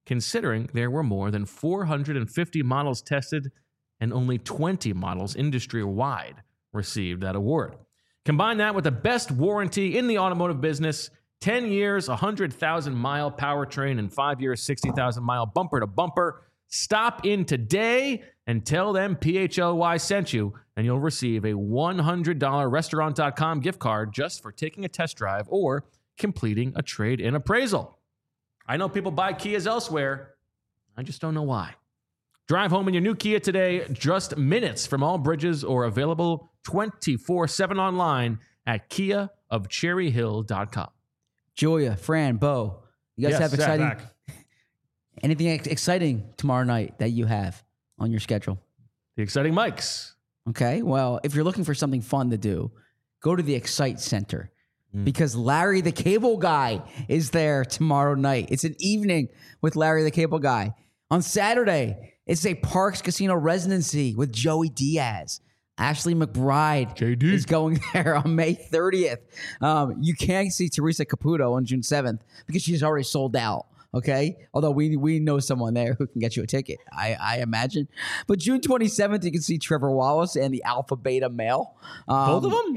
considering there were more than 450 models tested and only 20 models industry-wide received that award. Combine that with the best warranty in the automotive business, 10 years, 100,000-mile powertrain, and 5 years, 60,000-mile bumper-to-bumper. Stop in today and tell them PHLY sent you, and you'll receive a $100 Restaurant.com gift card just for taking a test drive or completing a trade-in appraisal. I know people buy Kias elsewhere. I just don't know why. Drive home in your new Kia today, just minutes from all bridges, or available 24/7 online at kiaofcherryhill.com. Julia, Fran, Bo, you guys Yes, have exciting Zach. anything exciting tomorrow night that you have on your schedule? The exciting mics. Okay, well, if you're looking for something fun to do, go to the Excite Center because Larry the Cable Guy is there tomorrow night. It's an evening with Larry the Cable Guy. On Saturday, it's a Parks Casino residency with Joey Diaz. Ashley McBride JD. is going there on May 30th. You can see Teresa Caputo on June 7th because she's already sold out. Okay, although we know someone there who can get you a ticket, I imagine. But June 27th, you can see Trevor Wallace and the Alpha Beta Male. Both of them?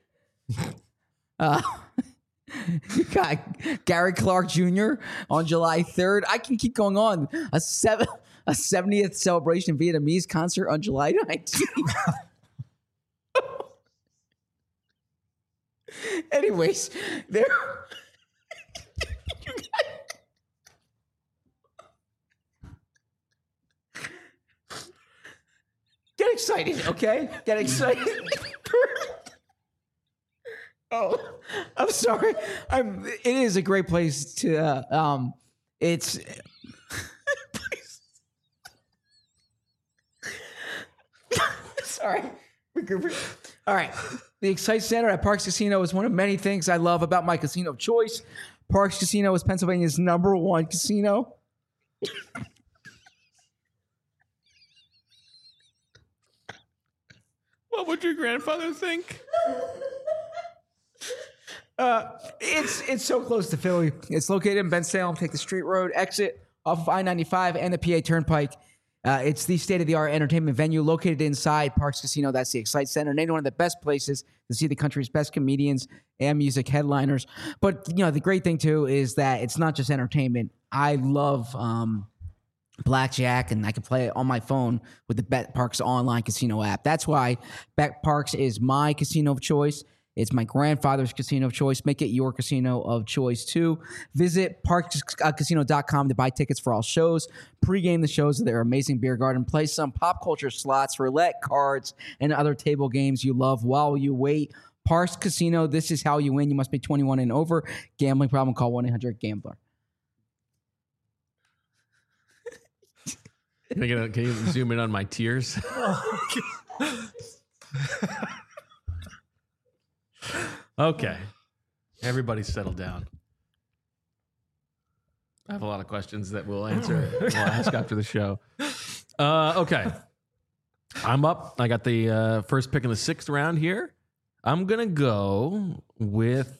You got Gary Clark Jr. on July 3rd. I can keep going on. A 70th celebration Vietnamese concert on July 19th. Anyways, there. Get excited, okay? Get excited. Oh, I'm sorry. It is a great place to. It's. Sorry. All right. The Excite Center at Parks Casino is one of many things I love about my casino of choice. Parks Casino is Pennsylvania's #1 casino. What would your grandfather think? It's so close to Philly. It's located in Bensalem. Take the street road exit off of I-95 and the PA Turnpike. It's the state-of-the-art entertainment venue located inside Parks Casino. That's the Excite Center. And one of the best places to see the country's best comedians and music headliners. But, the great thing, too, is that it's not just entertainment. I love blackjack, and I can play it on my phone with the Bet Parks online casino app. That's why Bet Parks is my casino of choice. It's my grandfather's casino of choice. Make it your casino of choice, too. Visit parkscasino.com to buy tickets for all shows. Pre-game the shows at their amazing beer garden. Play some pop culture slots, roulette, cards, and other table games you love while you wait. Parks Casino, this is how you win. You must be 21 and over. Gambling problem, call 1-800-GAMBLER. Can you zoom in on my tears? Okay. Everybody settle down. I have a lot of questions that we'll ask after the show. Okay. I'm up. I got the first pick in the 6th round here. I'm going to go with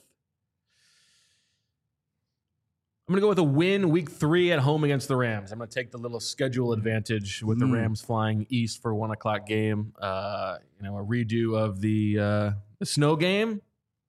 a win week 3 at home against the Rams. I'm going to take the little schedule advantage with the Rams flying east for a 1:00 game. A redo of the snow game.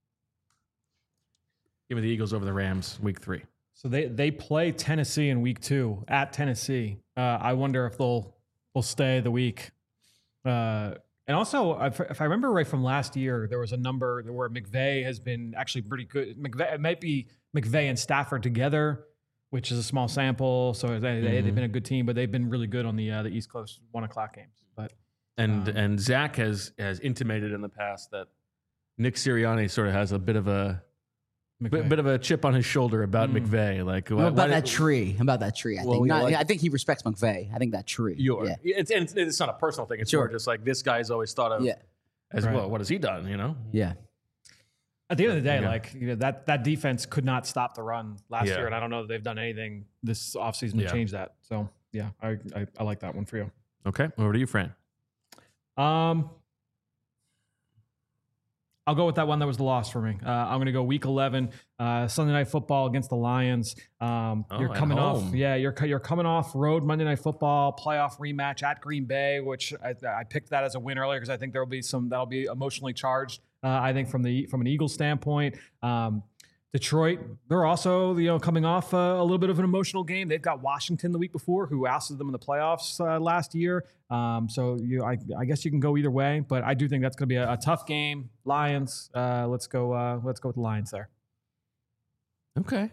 Give me the Eagles over the Rams week 3. So they play Tennessee in week 2 at Tennessee. I wonder if they'll stay the week. And also, if I remember right from last year, there was a number where McVay has been actually pretty good. It might be McVay and Stafford together, which is a small sample. So they've been a good team, but they've been really good on the East Coast 1:00 games. But and Zach has intimated in the past that Nick Sirianni sort of has a bit of a chip on his shoulder about McVay. Like about that tree. I think. I think he respects McVay. I think that tree. It's not a personal thing. It's more just like this guy's always thought of as well. What has he done? Yeah. At the end of the day, that defense could not stop the run last year, and I don't know that they've done anything this offseason to change that. So I like that one for you. Okay, over to you, Fran. I'll I'll go with that one that was the loss for me. I'm going to go Week 11, Sunday Night Football against the Lions. You're coming off, you're coming off road Monday Night Football playoff rematch at Green Bay, which I picked that as a win earlier because I think that'll be emotionally charged. I think from an Eagles standpoint. Detroit, they're also coming off a little bit of an emotional game. They've got Washington the week before, who ousted them in the playoffs last year. So I guess you can go either way, but I do think that's going to be a tough game. Lions, let's go with the Lions there. Okay.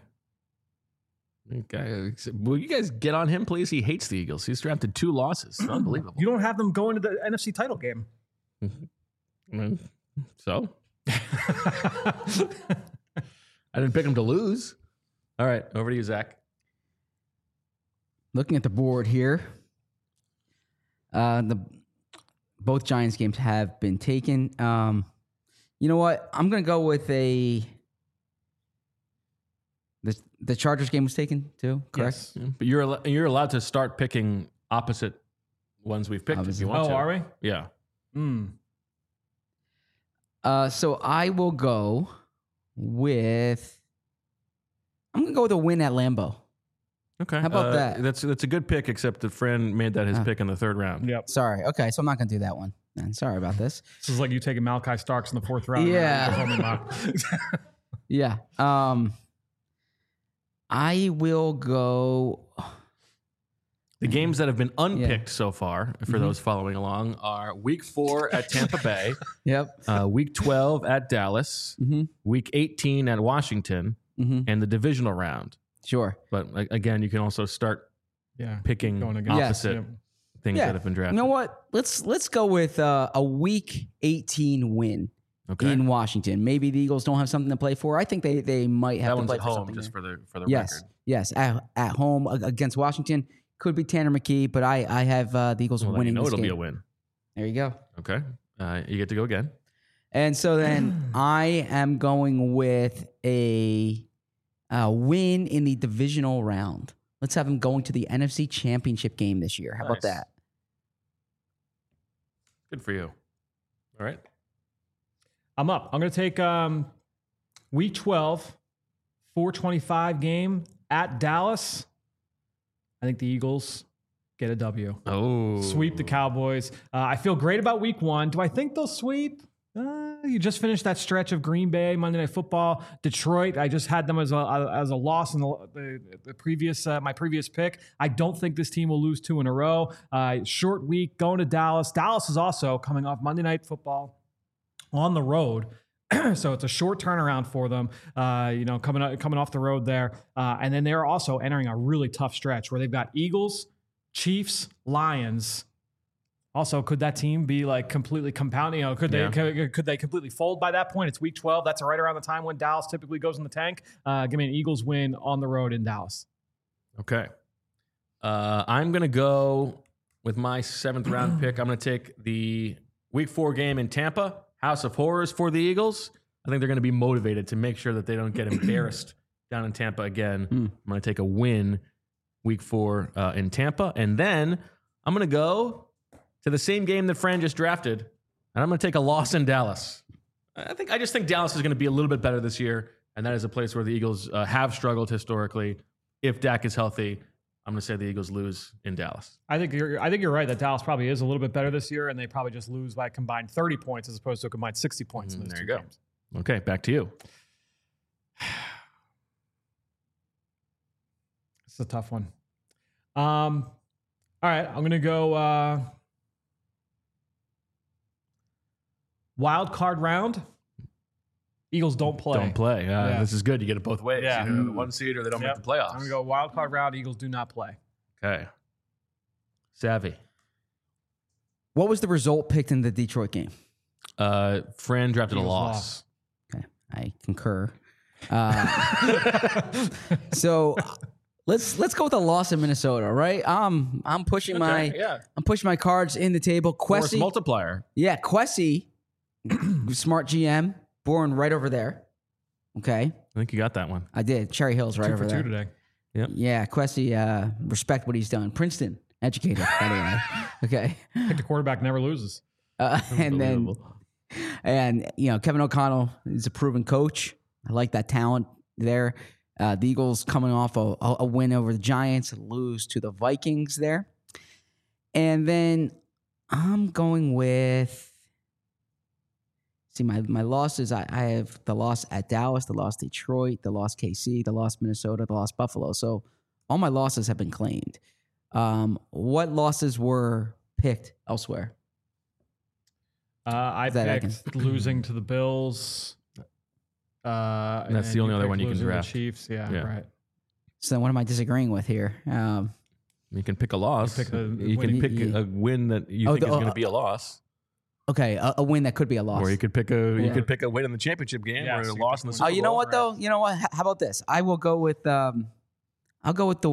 Will you guys get on him, please? He hates the Eagles. He's drafted 2 losses. Unbelievable. You don't have them go into the NFC title game. So? I didn't pick him to lose. All right, over to you, Zach. Looking at the board here, both Giants games have been taken. You know what? I'm going to go with the Chargers game was taken too, correct? Yes. But you're allowed to start picking opposite ones we've picked if you want to. Oh, are we? Yeah. So I will go with. I'm gonna go with a win at Lambeau. Okay. How about that? That's a good pick, except the friend made that his pick in the 3rd round. Yep. Sorry. Okay, so I'm not gonna do that one. Then sorry about this. This is like you taking Malachi Starks in the 4th round. Yeah. Yeah. I will go. The games that have been unpicked so far, for those following along, are Week 4 at Tampa Bay. Yep. Week 12 at Dallas. Week 18 at Washington. And the divisional round. Sure. But again, you can also start picking opposite things that have been drafted. You know what? Let's go with a Week 18 win in Washington. Maybe the Eagles don't have something to play for. I think they might have to play at for home something just there. for the Yes. record. Yes. At home against Washington. Could be Tanner McKee, but I have the Eagles winning this it'll game. be a win. There you go. Okay. You get to go again. And so then I am going with a win in the divisional round. Let's have them going to the NFC Championship game this year. How about that? Good for you. All right. I'm up. I'm going to take Week 12, 425 game at Dallas. I think the Eagles get a W. Oh. Sweep the Cowboys. I feel great about Week 1. Do I think they'll sweep? You just finished that stretch of Green Bay, Monday Night Football, Detroit. I just had them as a loss in the previous my previous pick. I don't think this team will lose 2 in a row. Short week going to Dallas. Dallas is also coming off Monday Night Football on the road. So it's a short turnaround for them, coming off the road there. And then they're also entering a really tough stretch where they've got Eagles, Chiefs, Lions. Also, could that team be like completely compounding? Could they completely fold by that point? It's Week 12. That's right around the time when Dallas typically goes in the tank. Give me an Eagles win on the road in Dallas. Okay. I'm going to go with my 7th round pick. I'm going to take the Week 4 game in Tampa. House of Horrors for the Eagles. I think they're going to be motivated to make sure that they don't get embarrassed down in Tampa again. I'm going to take a win Week 4 in Tampa. And then I'm going to go to the same game that Fran just drafted, and I'm going to take a loss in Dallas. I just think Dallas is going to be a little bit better this year, and that is a place where the Eagles have struggled historically. If Dak is healthy, I'm going to say the Eagles lose in Dallas. I think you're right that Dallas probably is a little bit better this year, and they probably just lose by a combined 30 points as opposed to a combined 60 points in those there two you go. games. Okay, back to you. It's a tough one. All right, I'm going to go wild card round. Eagles don't play. Don't play. This is good. You get it both ways. Yeah. Either the 1 seed or they don't make the playoffs. I'm going to go wild card round. Eagles do not play. Okay. Savvy. What was the result picked in the Detroit game? Fran drafted Eagles a loss. Okay, I concur. So let's go with a loss in Minnesota, right? I'm pushing my cards in the table. Force Kwesi, multiplier. yeah, Kwesi, smart GM, born right over there. Okay, I think you got that one. I did. Cherry Hill's right 2 over for 2 there. today. Yep. Yeah, Kwesi, respect what he's done. Princeton educated, by the way. Okay, I think the quarterback never loses. and then Unbelievable. And, Kevin O'Connell is a proven coach. I like that talent there. The Eagles coming off a win over the Giants, lose to the Vikings there. And then I'm going with, my losses. I have the loss at Dallas, the loss Detroit, the loss KC, the loss Minnesota, the loss Buffalo. So all my losses have been claimed. What losses were picked elsewhere? I picked losing to the Bills. And that's the only other one you can draft. The Chiefs, yeah, right. So then what am I disagreeing with here? You can pick a loss. You can pick a win that you think is going to be a loss. Okay, a win that could be a loss. Or you could pick a win in the championship game or a loss in the Super Bowl. You know what though? You know what? How about this? I will go with I'll go with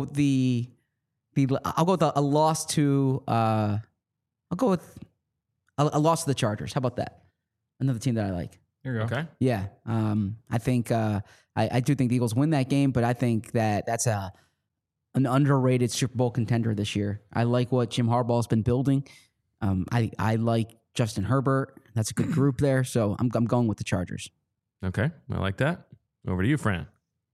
a loss to I'll go with a loss to the Chargers. How about that? Another team that I like. There you go. Okay. Yeah. I think I do think the Eagles win that game, but I think that's an underrated Super Bowl contender this year. I like what Jim Harbaugh has been building. I like Justin Herbert. That's a good group there. So I'm going with the Chargers. Okay. I like that. Over to you, Fran.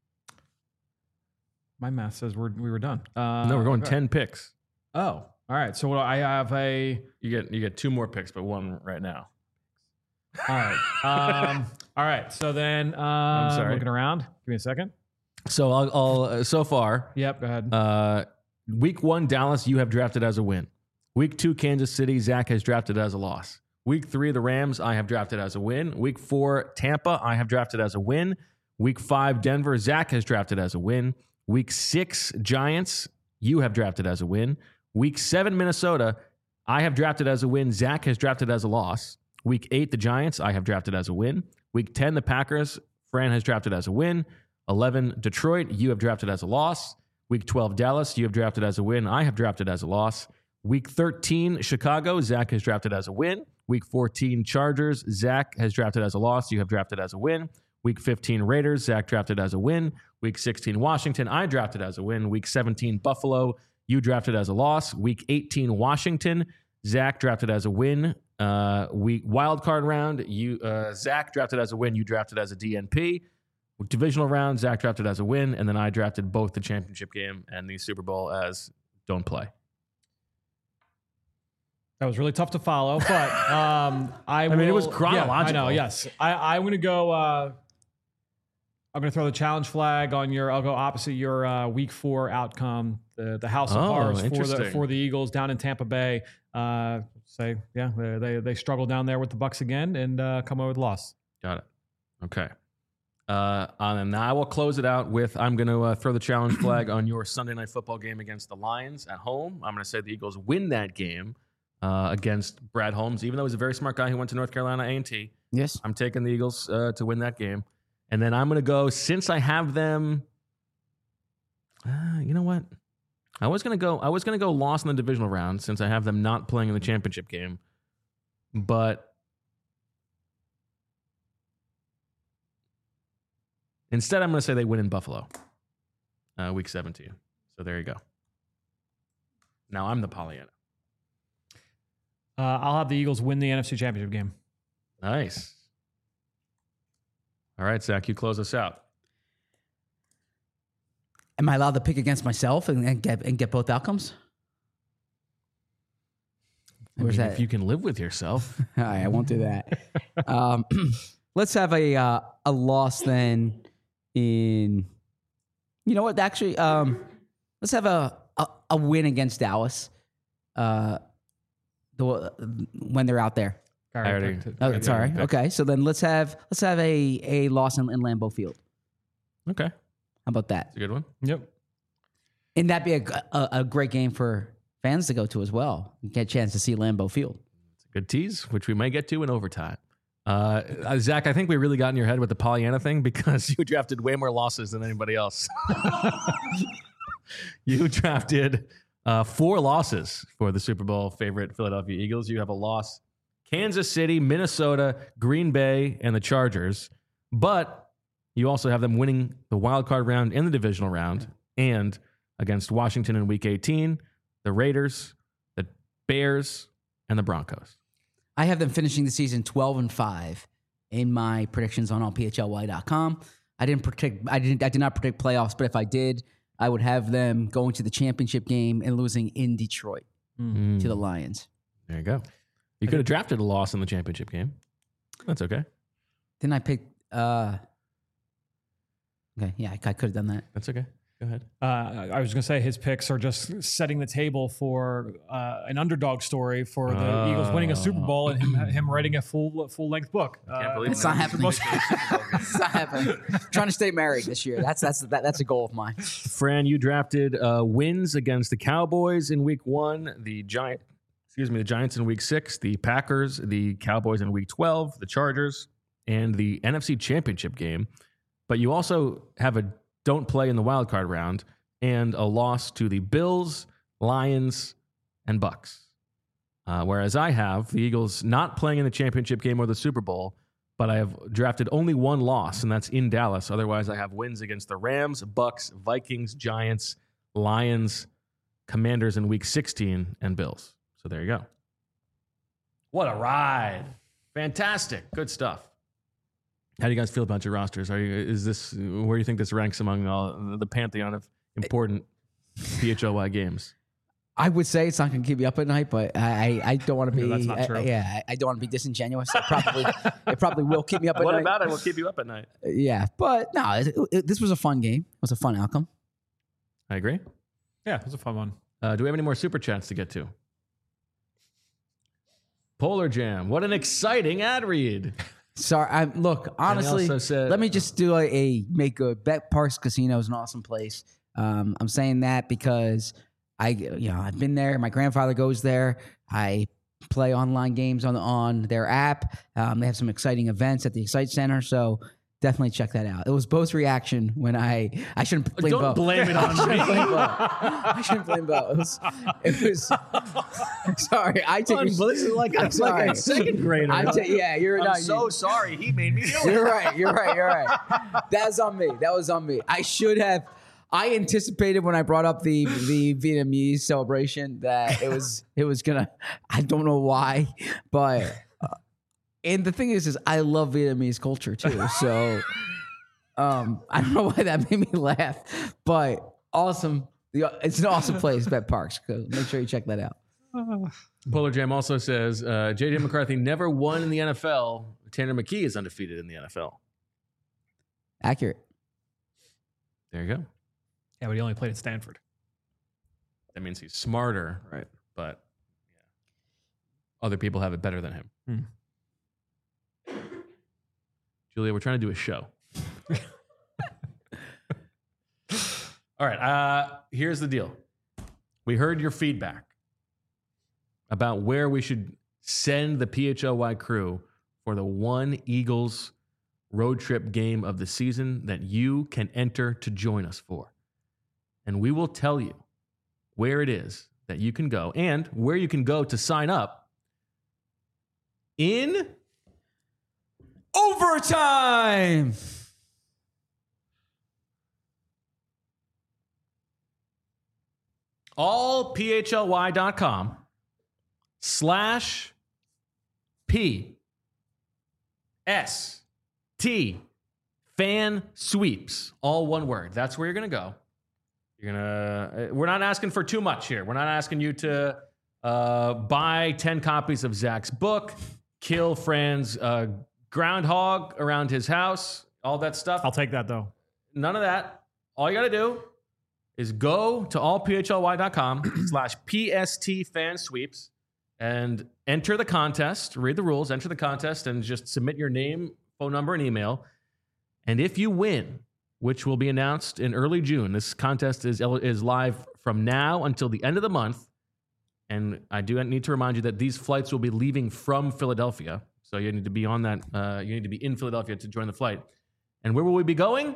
My math says we were done. No, we're going 10 picks. Oh, all right. So I have You get 2 more picks, but 1 right now. All right. All right. So then I'm sorry. Looking around. Give me a second. So I'll so far. Yep. Go ahead. Week 1, Dallas, you have drafted as a win. Week 2, Kansas City, Zach has drafted as a loss. Week 3, the Rams, I have drafted as a win. Week 4, Tampa, I have drafted as a win. Week 5, Denver, Zach has drafted as a win. Week 6, Giants, you have drafted as a win. Week 7, Minnesota, I have drafted as a win. Zach has drafted as a loss. Week 8, the Giants, I have drafted as a win. Week 10, the Packers, Fran has drafted as a win. 11, Detroit, you have drafted as a loss. Week 12, Dallas, you have drafted as a win. I have drafted as a loss. Week 13, Chicago, Zach has drafted as a win. Week 14, Chargers, Zach has drafted as a loss. You have drafted as a win. Week 15, Raiders, Zach drafted as a win. Week 16, Washington, I drafted as a win. Week 17, Buffalo, you drafted as a loss. Week 18, Washington, Zach drafted as a win. Wild card round, Zach drafted as a win. You drafted as a DNP. Divisional round, Zach drafted as a win, and then I drafted both the championship game and the Super Bowl as don't play. That was really tough to follow, but I mean, it was chronological. Yeah, I know. Yes, I'm going to go. I'm going to throw the challenge flag on your. I'll go opposite your Week 4 outcome. The House of Horrors for the Eagles down in Tampa Bay. They struggle down there with the Bucs again and come over with a loss. Got it. Okay. And now I will close it out with I'm going to throw the challenge flag on your Sunday Night Football game against the Lions at home. I'm going to say the Eagles win that game against Brad Holmes, even though he's a very smart guy who went to North Carolina A&T. Yes. I'm taking the Eagles to win that game. And then I'm going to go, since I have them, you know what? I was going to go loss in the divisional round since I have them not playing in the championship game. But instead, I'm going to say they win in Buffalo, Week 17. So there you go. Now I'm the Pollyanna. I'll have the Eagles win the NFC Championship game. Nice. All right, Zach, you close us out. Am I allowed to pick against myself and get both outcomes? If you can live with yourself. All right, I won't do that. Let's have a loss then in, you know what, actually, let's have a win against Dallas when they're out there. Sorry. Okay, so then let's have a loss in Lambeau Field. Okay. How about that? It's a good one. Yep. And that'd be a great game for fans to go to as well. You get a chance to see Lambeau Field. It's a good tease, which we might get to in overtime. Zach, I think we really got in your head with the Pollyanna thing because you drafted way more losses than anybody else. You drafted 4 losses for the Super Bowl favorite Philadelphia Eagles. You have a loss: Kansas City, Minnesota, Green Bay, and the Chargers. But you also have them winning the wild card round and the divisional round, and against Washington in Week 18, the Raiders, the Bears, and the Broncos. I have them finishing the season 12-5 in my predictions on allphly.com. I did not predict playoffs, but if I did, I would have them going to the championship game and losing in Detroit to the Lions. There you go. You could have drafted a loss in the championship game. That's okay. Then I picked. Okay, yeah, I could have done that. That's okay. Go ahead. I was going to say his picks are just setting the table for an underdog story for the Eagles winning a Super Bowl and him writing a full length book. Can't believe It's not happening. It's not happening. Trying to stay married this year. That's a goal of mine. Fran, you drafted wins against the Cowboys in Week 1, the Giants in Week 6, the Packers, the Cowboys in Week 12, the Chargers, and the NFC Championship game. But you also have a don't play in the wild card round and a loss to the Bills, Lions, and Bucks. Whereas I have the Eagles not playing in the championship game or the Super Bowl, but I have drafted only one loss, and that's in Dallas. Otherwise, I have wins against the Rams, Bucks, Vikings, Giants, Lions, Commanders in Week 16, and Bills. So there you go. What a ride. Fantastic. Good stuff. How do you guys feel about your rosters? Where do you think this ranks among all the pantheon of important PHLY games? I would say it's not going to keep you up at night, but I don't want to be. that's not true. I don't want to be disingenuous. It probably will keep me up at night. What about it will keep you up at night? Yeah, but no, this was a fun game. It was a fun outcome. I agree. Yeah, it was a fun one. Do we have any more super chats to get to? Polar Jam. What an exciting ad read. Sorry, look, honestly, let me just do make a Bet Parks Casino is an awesome place. I'm saying that because I've been there. My grandfather goes there. I play online games on their app. They have some exciting events at the Excite Center, so definitely check that out. It was Bo's reaction when I shouldn't blame Bo. Don't blame it on me. I shouldn't blame Bo. It was sorry. I take This is like a second grader. I'm so sorry. He made me do it. You're right. That's on me. That was on me. I anticipated when I brought up the Vietnamese celebration that it was gonna. I don't know why, but and the thing is I love Vietnamese culture too. So I don't know why that made me laugh, but awesome. It's an awesome place, Bet Parks. Make sure you check that out. Polar Jam also says J.J. McCarthy never won in the NFL. Tanner McKee is undefeated in the NFL. Accurate. There you go. Yeah, but he only played at Stanford. That means he's smarter, right? But other people have it better than him. Julia, we're trying to do a show. All right. Here's the deal. We heard your feedback about where we should send the PHLY crew for the one Eagles road trip game of the season that you can enter to join us for. And we will tell you where it is that you can go and where you can go to sign up in overtime. allphly.com/PST fan sweeps. All one word. That's where you're going to go. We're not asking for too much here. We're not asking you to buy 10 copies of Zach's book, kill Fran's groundhog around his house, all that stuff. I'll take that though. None of that. All you got to do is go to allphly.com/PST fan sweeps and enter the contest, read the rules, enter the contest, and just submit your name, phone number, and email. And if you win, which will be announced in early June, this contest is live from now until the end of the month. And I do need to remind you that these flights will be leaving from Philadelphia. So you need to be on that. You need to be in Philadelphia to join the flight. And where will we be going?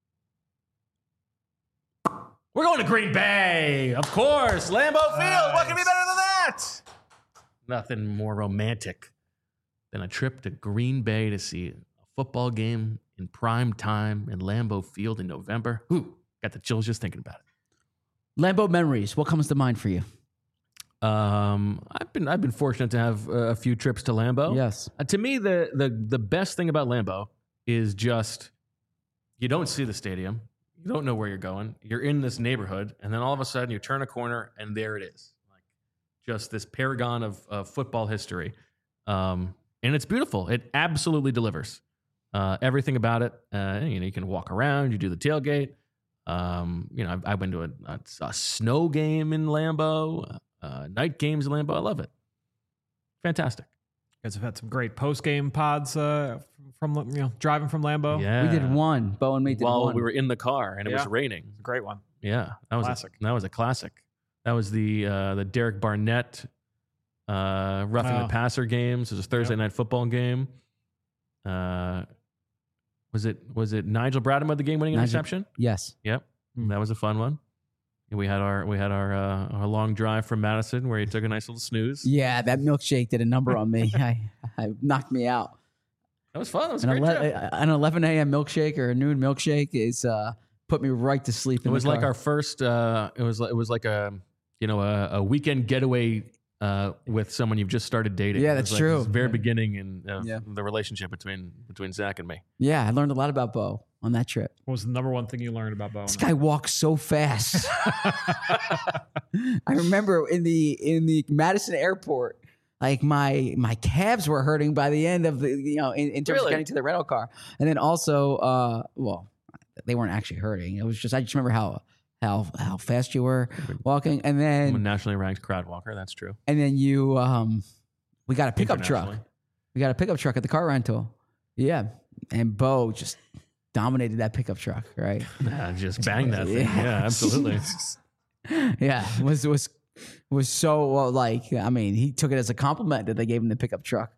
We're going to Green Bay, of course. Lambeau Field. What can be better than that? Nothing more romantic than a trip to Green Bay to see a football game in prime time in Lambeau Field in November. Ooh, got the chills just thinking about it. Lambeau memories. What comes to mind for you? I've been fortunate to have a few trips to Lambeau. Yes. To me, the best thing about Lambeau is just you don't see the stadium, you don't know where you're going. You're in this neighborhood, and then all of a sudden you turn a corner, and there it is, like just this paragon of football history. And it's beautiful. It absolutely delivers. Everything about it. You can walk around. You do the tailgate. I went to a snow game in Lambeau, night games in Lambeau. I love it. Fantastic. You guys have had some great post-game pods from driving from Lambeau. Yeah, We did one. Bo and me did while one. we were in the car and it was raining. Great one. Yeah, that was Classic. that was a classic. That was the Derek Barnett roughing the passer games. It was a Thursday night football game. Was it Nigel Bradham with the game-winning interception? Yes. Yep, that was a fun one. And we had our long drive from Madison where he took a nice little snooze. Yeah, that milkshake did a number on me. I knocked me out. That was fun. That was a great trip. An 11 a.m. milkshake or a noon milkshake is put me right to sleep. It was like our first. It was like a weekend getaway with someone you've just started dating. Yeah, It was that's like true. this very beginning in Yeah. the relationship between Zach and me. Yeah, I learned a lot about Bo on that trip. What was the number one thing you learned about Bo? This guy walks so fast. I remember in the Madison airport, like my calves were hurting by the end of the in terms of getting to the rental car, and then also they weren't actually hurting. It was just I just remember how fast you were walking, and I'm a then nationally ranked crowd walker. That's true. you we got a pickup truck. Internationally. We got a pickup truck at the car rental. Yeah, and Bo just dominated that pickup truck, right? Just bang that thing. Yeah, absolutely. Yeah, was so he took it as a compliment that they gave him the pickup truck.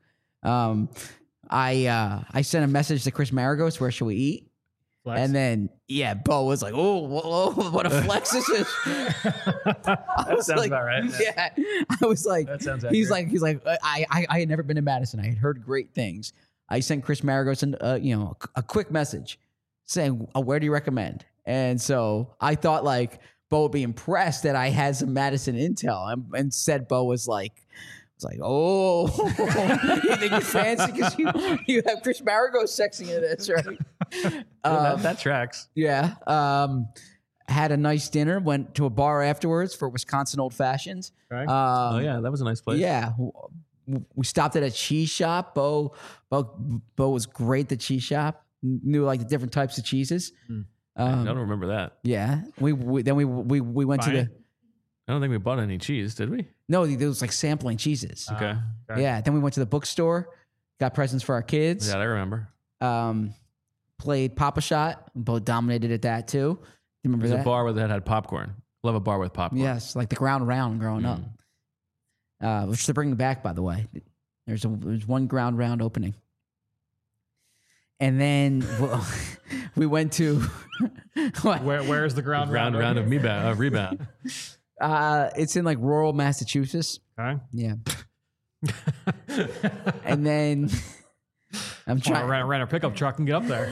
I sent a message to Chris Maragos, where should we eat? Flex. And then Bo was like, "Oh, what a flex this is!" That sounds about right. Yeah, I was like, That sounds he's accurate. like, I had never been to Madison. I had heard great things. I sent Chris Maragos a quick message saying, "Where do you recommend?" And so I thought like Bo would be impressed that I had some Madison intel. And instead, Bo was like, "Oh, you think you're fancy because you have Chris Maragos sexing into this, right?" That tracks. Yeah. Had a nice dinner. Went to a bar afterwards for Wisconsin Old Fashions. Okay. Oh yeah, that was a nice place. Yeah. We stopped at a cheese shop. Bo was great at the cheese shop. Knew like the different types of cheeses. I don't remember that. Yeah. We went to the. I don't think we bought any cheese, did we? No, there was like sampling cheeses. Okay. Yeah. Then we went to the bookstore, got presents for our kids. Yeah, I remember. Played Papa Shot. Bo dominated at that too. You remember There's that? a bar that had popcorn. Love a bar with popcorn. Yes, like the Ground Round growing up. Which they're bringing back, by the way. There's one Ground Round opening. And then we went to Where's the ground Round of rebound. it's in like rural Massachusetts. Okay. Yeah. And then I'm Trying to trying. rent a pickup truck and get up there.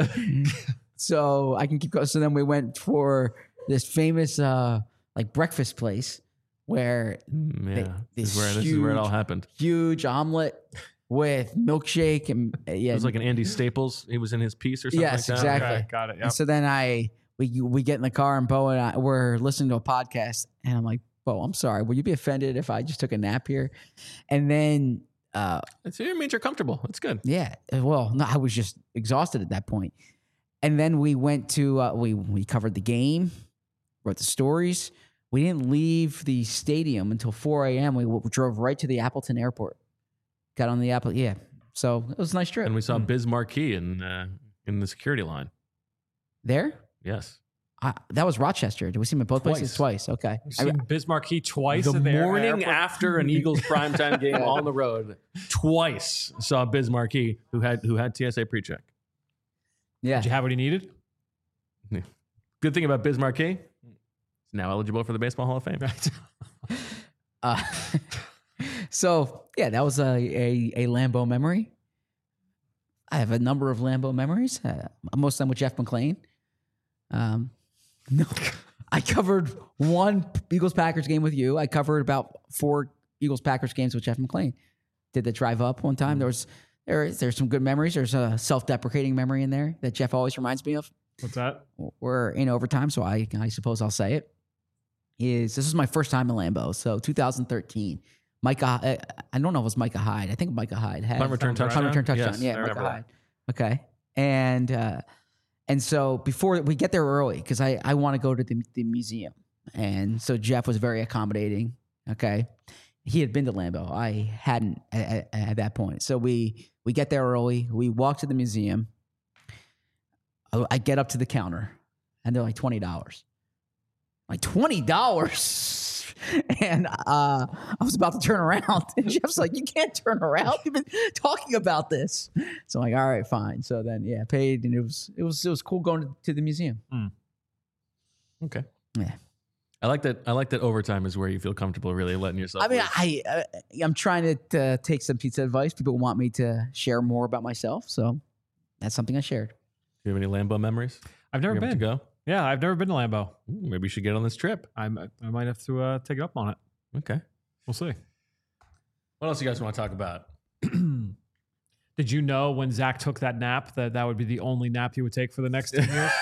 So I can keep going. So then we went for this famous like breakfast place where Yeah. this This is where it all happened. huge omelet with milkshake and It was like an Andy Staples. He was in his piece or something Yes, like that. exactly. Okay, got it. Yep. And so then we get in the car and Bo and I were listening to a podcast and I'm like, Bo, I'm sorry. Will you be offended if I just took a nap here? And then, It means you're comfortable. It's good. yeah, well, no, I was just exhausted at that point. And then we went to, we covered the game, wrote the stories. We didn't leave the stadium until 4 a.m. We drove right to the Appleton airport. Got on the Apple. Yeah. So it was a nice trip. And we saw Biz Marquee in the security line. There? Yes. That was Rochester. Did we see him at both places? Twice. Okay. You've seen Bismarck twice The in the morning airport? after an Eagles primetime game on the road, twice saw Biz Marquee, who had TSA pre-check. Yeah. Did you have what he needed? Good thing about Biz Marquee, he's now eligible for the Baseball Hall of Fame. So yeah, that was a Lambeau memory. I have a number of Lambeau memories. Most of them with Jeff McClain. No, I covered one Eagles Packers game with you. I covered about 4 Eagles Packers games with Jeff McClain. Did the drive up one time. There's some good memories. There's a self-deprecating memory in there that Jeff always reminds me of. What's that? We're in overtime, so I suppose I'll say it. This is my first time in Lambeau, so 2013. Micah, I don't know if it was Micah Hyde. I think Micah Hyde had Punt return touchdown. Punt return touchdown. Yes, Yeah, I Micah remember Hyde. Okay, and so before we get there early, because I want to go to the museum, and so Jeff was very accommodating. Okay, he had been to Lambeau. I hadn't at that point. So we get there early. We walk to the museum. I get up to the counter, and they're like $20. Like $20. And I was about to turn around, and Jeff's like, "You can't turn around. You've been talking about this." So I'm like, "All right, fine." So then, yeah, paid, and it was cool going to the museum. Okay. Yeah. I like that overtime is where you feel comfortable really letting yourself. I mean, loose. I'm trying to take some pizza advice. People want me to share more about myself, so that's something I shared. Do you have any Lambeau memories? I've never You have been. to go. Yeah, I've never been to Lambeau. Ooh, maybe you should get on this trip. I might have to take it up on it. Okay. We'll see. What else do you guys want to talk about? Did you know when Zach took that nap that would be the only nap he would take for the next 10 years?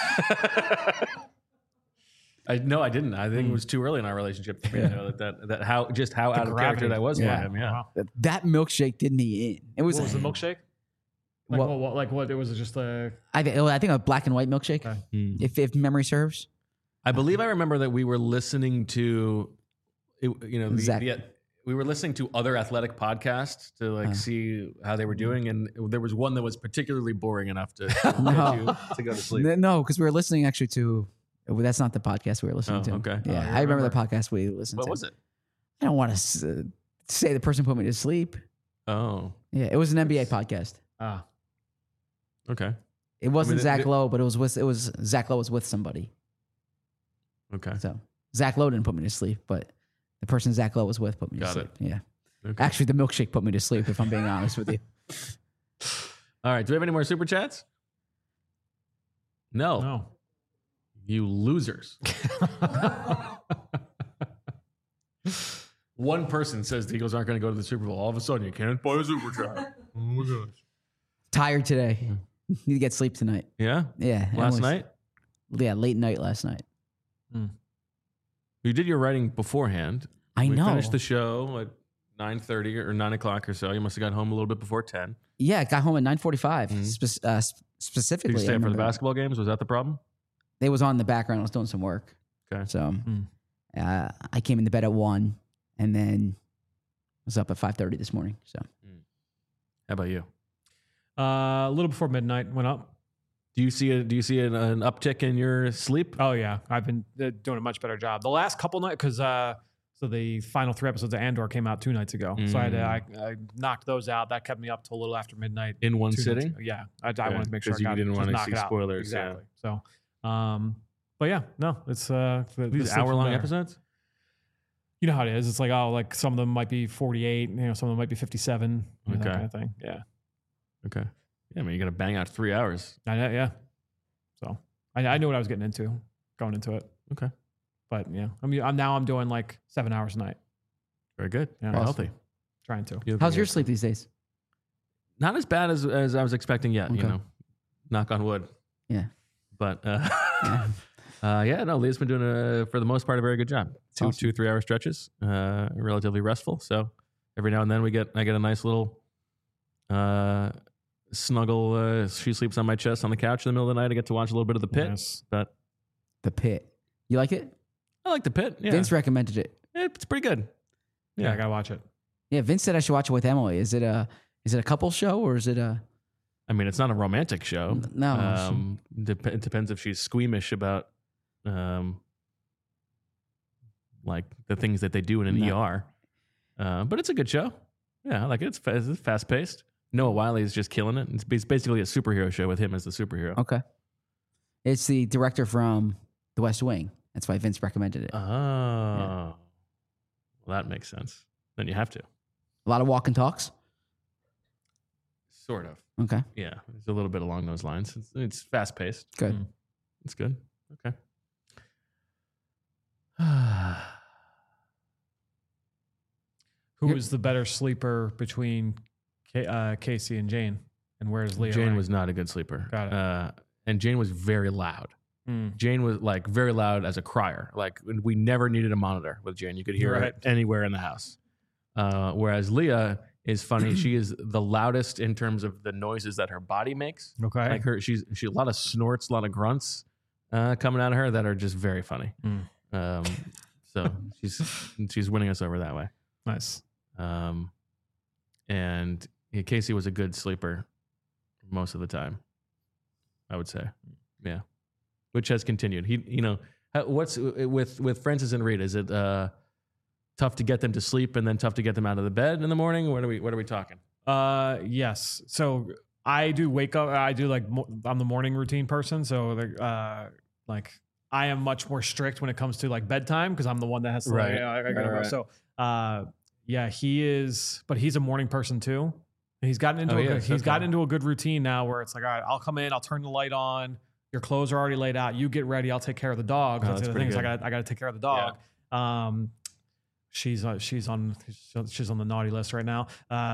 No, I didn't. I think it was too early in our relationship for me to know that how out of gravity. character that was Yeah. for him. Yeah. Wow. That milkshake did me in. It was, What was the milkshake? Like What- what? Like what? It was just a. I think a black and white milkshake, Okay. if memory serves. I believe I remember that we were listening to, Zach. we were listening to other athletic podcasts to see how they were doing, and there was one that was particularly boring enough to get you to go to sleep. No, because we were listening actually to. Well, that's not the podcast we were listening to. okay. Yeah, Oh, I remember the podcast we listened What to. was it? I don't want to say the person put me to sleep. Oh, Yeah, it was an NBA podcast. Ah. okay, It wasn't Zach the- Lowe, but it was Zach Lowe was with somebody. okay, So Zach Lowe didn't put me to sleep, but the person Zach Lowe was with put me Got to it. sleep. Yeah. okay. Actually, the milkshake put me to sleep, if I'm being honest with you. All right. Do we have any more super chats? No. No. You losers. One person says the Eagles aren't going to go to the Super Bowl. All of a sudden, you can't buy a super chat. Oh my gosh. Tired today. Need to get sleep tonight. Yeah. Yeah. Last night, Yeah, late night last night. you did your writing beforehand. I we know. finished the show at 9:30 or 9 o'clock or so. You must have got home a little bit before 10. Yeah, got home at 9:45. Mm-hmm. Specifically, Did you stay I up for the remember. basketball games? Was that the problem? They was on in the background. I was doing some work. Okay. So I came into bed at 1 and then was up at 5:30 this morning. So How about you? A little before midnight went up. Do you see an uptick in your sleep? Oh yeah, I've been doing a much better job. The last couple nights, because so the final 3 episodes of Andor came out 2 nights ago. So I knocked those out. That kept me up till a little after midnight. In one 2 nights sitting? ago. Yeah, I wanted to make sure I 'Cause you got didn't just wanna knock see it out. spoilers, yeah. Exactly. So, but yeah, no, it's These hour-long episodes? You know how it is. It's like some of them might be 48. Some of them might be 57. That Okay. kind of thing. Yeah. Okay. Yeah, I mean, you got to bang out 3 hours. I know. Yeah. So I knew what I was getting into going into it. Okay. But yeah, I'm doing like 7 hours a night. Very good. Yeah. Very Awesome. healthy. Trying to. how's your sleep these days? Not as bad as I was expecting yet, Okay. Knock on wood. Yeah. But Leah's been doing for the most part a very good job. Awesome. 2 3 hour stretches, relatively restful. So every now and then I get a nice little snuggle. She sleeps on my chest on the couch in the middle of the night. I get to watch a little bit of the pit. Yes. But The Pit. You like it? I like the pit. Yeah, Vince recommended it. it's pretty good. Yeah, I gotta watch it. Yeah, Vince said I should watch it with Emily. Is it a couple show or is it a? I mean, it's not a romantic show. No. It depends if she's squeamish about, like the things that they do in an No. ER. But it's a good show. Yeah, I like it. It's fast paced. Noah Wiley is just killing it. It's basically a superhero show with him as the superhero. Okay. It's the director from The West Wing. That's why Vince recommended it. Oh, well, that makes sense. Then you have to. A lot of walk and talks. Sort of. Okay. Yeah, it's a little bit along those lines. It's fast paced. Good. Mm. It's good. Okay. Who is the better sleeper between Casey and Jane? And where's Leah? Jane was not a good sleeper. Got it. And Jane was very loud. Jane was like very loud as a crier. Like we never needed a monitor with Jane. You could hear her anywhere in the house. Whereas Leah is funny. She is the loudest in terms of the noises that her body makes. Okay. Like she a lot of snorts, a lot of grunts coming out of her that are just very funny. So she's winning us over that way. Nice. And Casey was a good sleeper most of the time, I would say. Yeah. Which has continued. What's with Francis and Reed? Is it tough to get them to sleep and then tough to get them out of the bed in the morning? What are we talking? Yes. So I do wake up. I do I'm the morning routine person. So I am much more strict when it comes to like bedtime because I'm the one that has to. Right. So yeah, he is, but he's a morning person too. And he's gotten into a good routine now where it's like, all right, I'll come in, I'll turn the light on. Your clothes are already laid out. You get ready. I'll take care of the dog. That's the thing. I got to take care of the dog. Yeah. She's on the naughty list right now.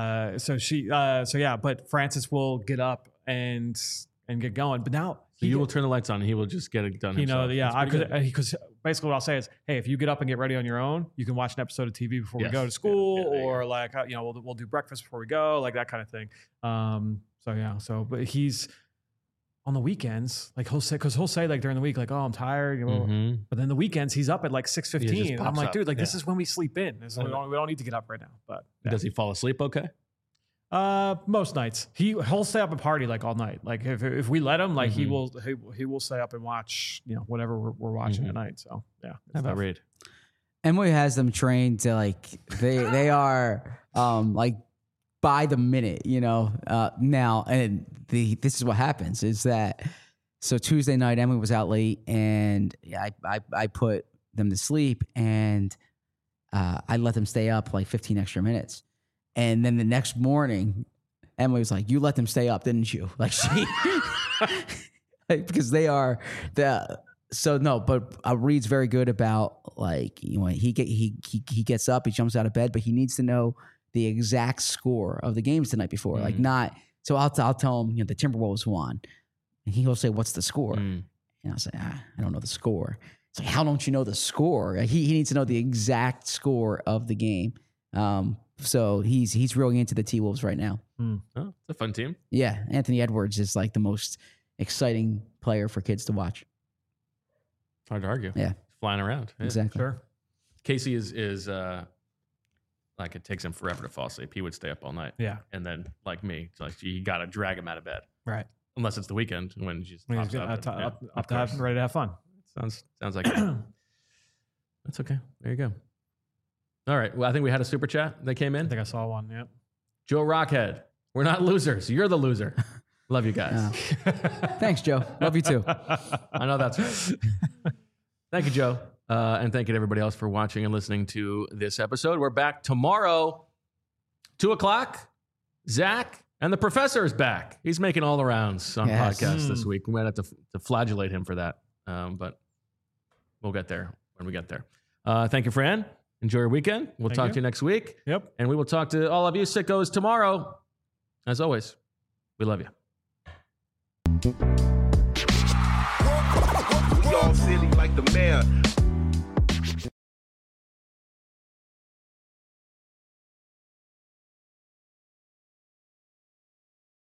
But Francis will get up and get going. But now you will turn the lights on and he will just get it done himself. Because basically what I'll say is, hey, if you get up and get ready on your own, you can watch an episode of TV before we go to school, or we'll do breakfast before we go, like that kind of thing. But he's on the weekends, like he'll say like during the week, like, oh, I'm tired, but then the weekends he's up at like 6:15. I'm like, dude, like this is when we sleep in. We don't need to get up right now. But does he fall asleep okay? Most nights he'll stay up and party like all night. Like if we let him, like he will stay up and watch whatever we're watching at night. So yeah. How about Reed? Emily has them trained to like they are like by the minute, now, and this is what happens is that, so Tuesday night, Emily was out late and I put them to sleep and I let them stay up like 15 extra minutes. And then the next morning, Emily was like, you let them stay up, didn't you? Like because they are but Reed's very good about like, he gets up, he jumps out of bed, but he needs to know the exact score of the games the night before. Like not, so I'll tell him, the Timberwolves won. And he'll say, what's the score? And I'll say, I don't know the score. It's like, how don't you know the score? He needs to know the exact score of the game. So he's really into the T-Wolves right now. Oh, it's a fun team. Yeah. Anthony Edwards is like the most exciting player for kids to watch. Hard to argue. Yeah. Flying around. Yeah. Exactly. Sure. Casey is like it takes him forever to fall asleep. He would stay up all night. Yeah. And then like me, it's like you got to drag him out of bed. Right. Unless it's the weekend when he's just ready to have fun. Sounds like it. That's okay. There you go. All right. Well, I think we had a super chat that came in. I think I saw one. Yeah. Joe Rockhead. We're not losers. You're the loser. Love you guys. Thanks, Joe. Love you too. I know that's right. Thank you, Joe. And thank you to everybody else for watching and listening to this episode. We're back tomorrow, 2:00. Zach and the professor is back. He's making all the rounds on podcasts this week. We might have to flagellate him for that. But we'll get there when we get there. Thank you, Fran. Enjoy your weekend. We'll talk to you next week. Yep. And we will talk to all of you sickos tomorrow. As always, we love you. We all silly like the mayor.